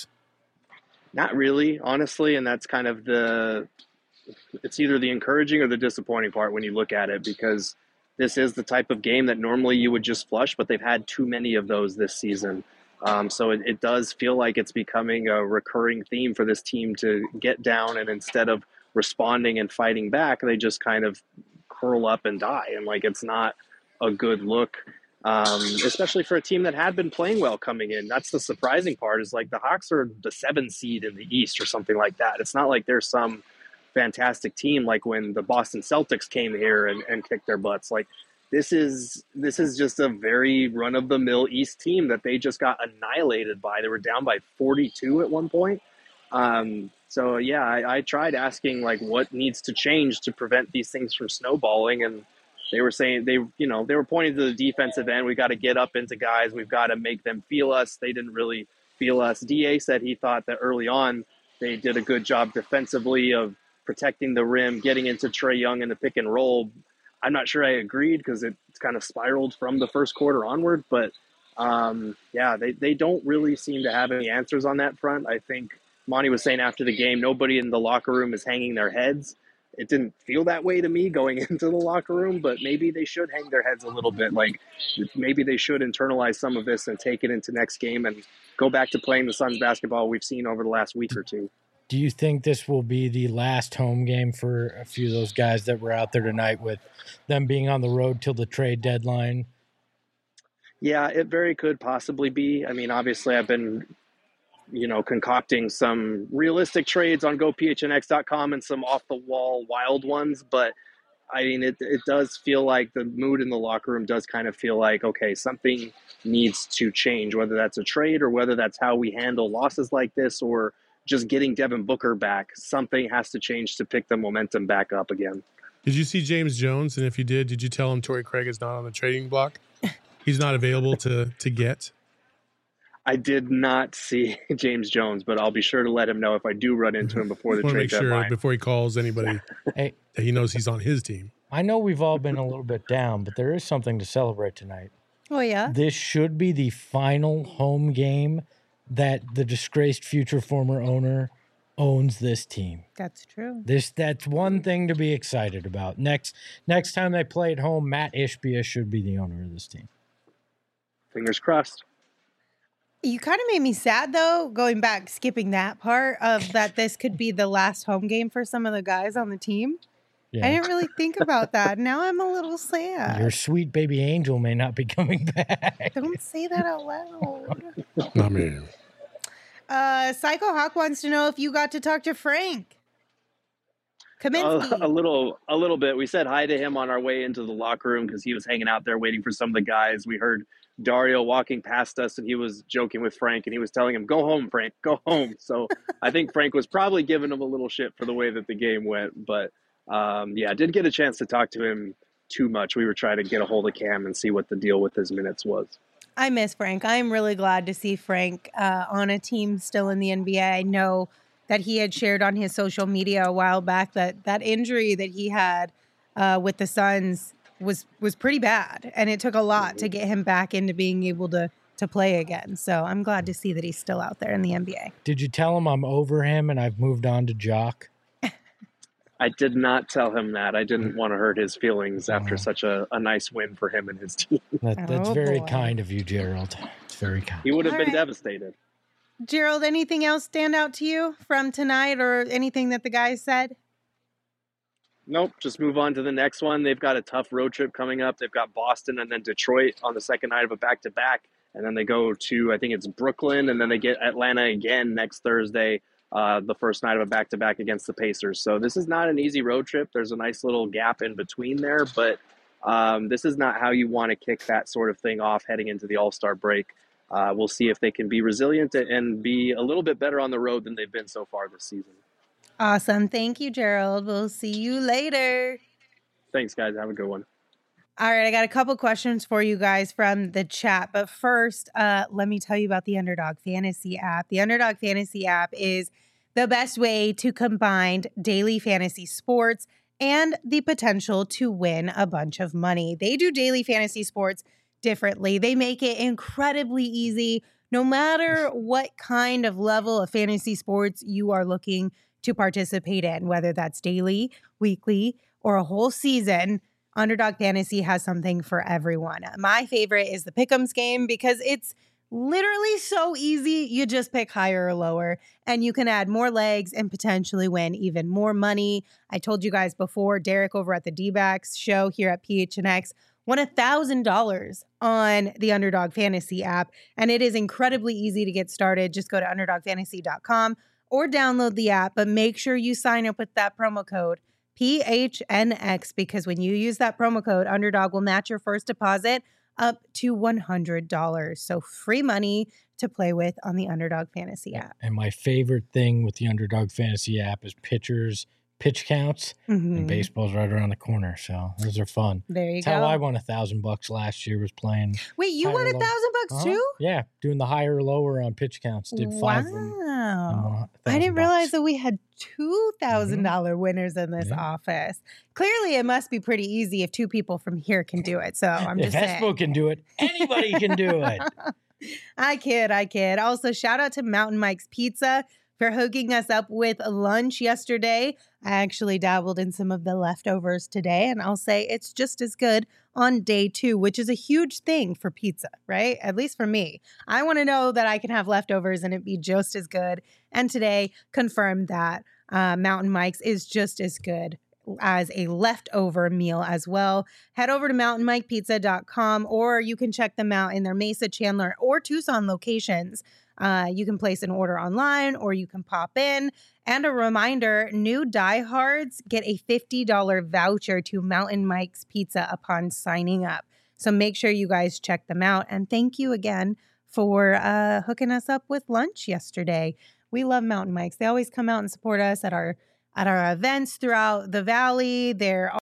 Not really, honestly, and that's kind of the it's either the encouraging or the disappointing part when you look at it, because this is the type of game that normally you would just flush, but they've had too many of those this season. Um, so it, it does feel like it's becoming a recurring theme for this team to get down, and instead of responding and fighting back, they just kind of curl up and die. And like, it's not a good look, um, especially for a team that had been playing well coming in. That's the surprising part, is like the Hawks are the seven seed in the East or something like that. It's not like there's some fantastic team like when the Boston Celtics came here and, and kicked their butts. Like, this is this is just a very run-of-the-mill East team that they just got annihilated by. They were down by forty-two at one point. Um, so yeah, I, I tried asking like what needs to change to prevent these things from snowballing, and they were saying they you know they were pointing to the defensive end. We got to get up into guys. We've got to make them feel us. They didn't really feel us. D A said he thought that early on they did a good job defensively of protecting the rim, getting into Trae Young in the pick and roll. I'm not sure I agreed because it's kind of spiraled from the first quarter onward. But um, yeah, they, they don't really seem to have any answers on that front. I think Monty was saying after the game, nobody in the locker room is hanging their heads. It didn't feel that way to me going into the locker room, but maybe they should hang their heads a little bit. Like, maybe they should internalize some of this and take it into next game and go back to playing the Suns basketball we've seen over the last week or two. Do you think this will be the last home game for a few of those guys that were out there tonight, with them being on the road till the trade deadline? Yeah, it very could possibly be. I mean, obviously I've been, you know, concocting some realistic trades on go P H N X dot com and some off the wall wild ones. But I mean, it, it does feel like the mood in the locker room does kind of feel like, okay, something needs to change, whether that's a trade or whether that's how we handle losses like this, or just getting Devin Booker back. Something has to change to pick the momentum back up again. Did you see James Jones? And if you did, did you tell him Torrey Craig is not on the trading block? He's not available to to get. I did not see James Jones, but I'll be sure to let him know if I do run into him before the Want to trade make sure deadline. before he calls anybody Hey, that he knows he's on his team. I know we've all been a little bit down, but there is something to celebrate tonight. Oh, yeah? This should be the final home game that the disgraced future former owner owns this team. That's true. This that's one thing to be excited about. Next next time they play at home, Matt Ishbia should be the owner of this team. Fingers crossed. You kind of made me sad, though, going back, skipping that part of that this could be the last home game for some of the guys on the team. Yeah. I didn't really think about that. Now I'm a little sad. Your sweet baby angel may not be coming back. Don't say that out loud. I mean, Uh, Psycho Hawk wants to know if you got to talk to Frank. Kaminsky. A, a little, a little bit. We said hi to him on our way into the locker room because he was hanging out there waiting for some of the guys. We heard Dario walking past us, and he was joking with Frank, and he was telling him, "Go home, Frank, go home." So I think Frank was probably giving him a little shit for the way that the game went. But um, yeah, I didn't get a chance to talk to him too much. We were trying to get a hold of Cam and see what the deal with his minutes was. I miss Frank. I'm really glad to see Frank uh, on a team still in the N B A. I know that he had shared on his social media a while back that that injury that he had uh, with the Suns was was pretty bad, and it took a lot to get him back into being able to to play again. So I'm glad to see that he's still out there in the N B A. Did you tell him I'm over him and I've moved on to Jock? I did not tell him that. I didn't want to hurt his feelings after Oh. such a, a nice win for him and his team. That, that's Oh, very boy. kind of you, Gerald. It's very kind. He would have All been right. devastated. Gerald, anything else stand out to you from tonight or anything that the guys said? Nope, just move on to the next one. They've got a tough road trip coming up. They've got Boston and then Detroit on the second night of a back-to-back. And then they go to, I think it's Brooklyn, and then they get Atlanta again next Thursday, uh, the first night of a back-to-back against the Pacers. So this is not an easy road trip. There's a nice little gap in between there, but um, this is not how you want to kick that sort of thing off heading into the All-Star break. Uh, we'll see if they can be resilient and be a little bit better on the road than they've been so far this season. Awesome. Thank you, Gerald. We'll see you later. Thanks, guys. Have a good one. All right, I got a couple questions for you guys from the chat. But first, uh, let me tell you about the Underdog Fantasy app. The Underdog Fantasy app is the best way to combine daily fantasy sports and the potential to win a bunch of money. They do daily fantasy sports differently. They make it incredibly easy, no matter what kind of level of fantasy sports you are looking to participate in, whether that's daily, weekly, or a whole season. Underdog Fantasy has something for everyone. My favorite is the Pick'ems game because it's literally so easy. You just pick higher or lower, and you can add more legs and potentially win even more money. I told you guys before, Derek over at the D-backs show here at P H N X won one thousand dollars on the Underdog Fantasy app, and it is incredibly easy to get started. Just go to underdog fantasy dot com or download the app, but make sure you sign up with that promo code P H N X, because when you use that promo code, Underdog will match your first deposit up to one hundred dollars. So free money to play with on the Underdog Fantasy app. And my favorite thing with the Underdog Fantasy app is pitchers, pitch counts, Mhm. and baseball's right around the corner. So those are fun. There you That's go. how I won a thousand bucks last year, was playing. Wait, you won higher a low. thousand bucks Uh-huh. too? Yeah, doing the higher lower on pitch counts. Did five of them. and Wow. won a I thousand didn't realize bucks. that we had two thousand dollars winners in this Yeah. office. Clearly, it must be pretty easy if two people from here can do it. So I'm If just saying. Espo can do it, anybody can do it. I kid, I kid. Also, shout out to Mountain Mike's Pizza for hooking us up with lunch yesterday. I actually dabbled in some of the leftovers today, and I'll say it's just as good on day two, which is a huge thing for pizza, right? At least for me. I want to know that I can have leftovers and it be just as good. And today confirmed that uh, Mountain Mike's is just as good as a leftover meal as well. Head over to mountain mike pizza dot com, or you can check them out in their Mesa, Chandler, or Tucson locations. Uh, you can place an order online or you can pop in. And a reminder, new diehards get a fifty dollars voucher to Mountain Mike's Pizza upon signing up. So make sure you guys check them out. And thank you again for uh, hooking us up with lunch yesterday. We love Mountain Mike's. They always come out and support us at our at our events throughout the valley. They're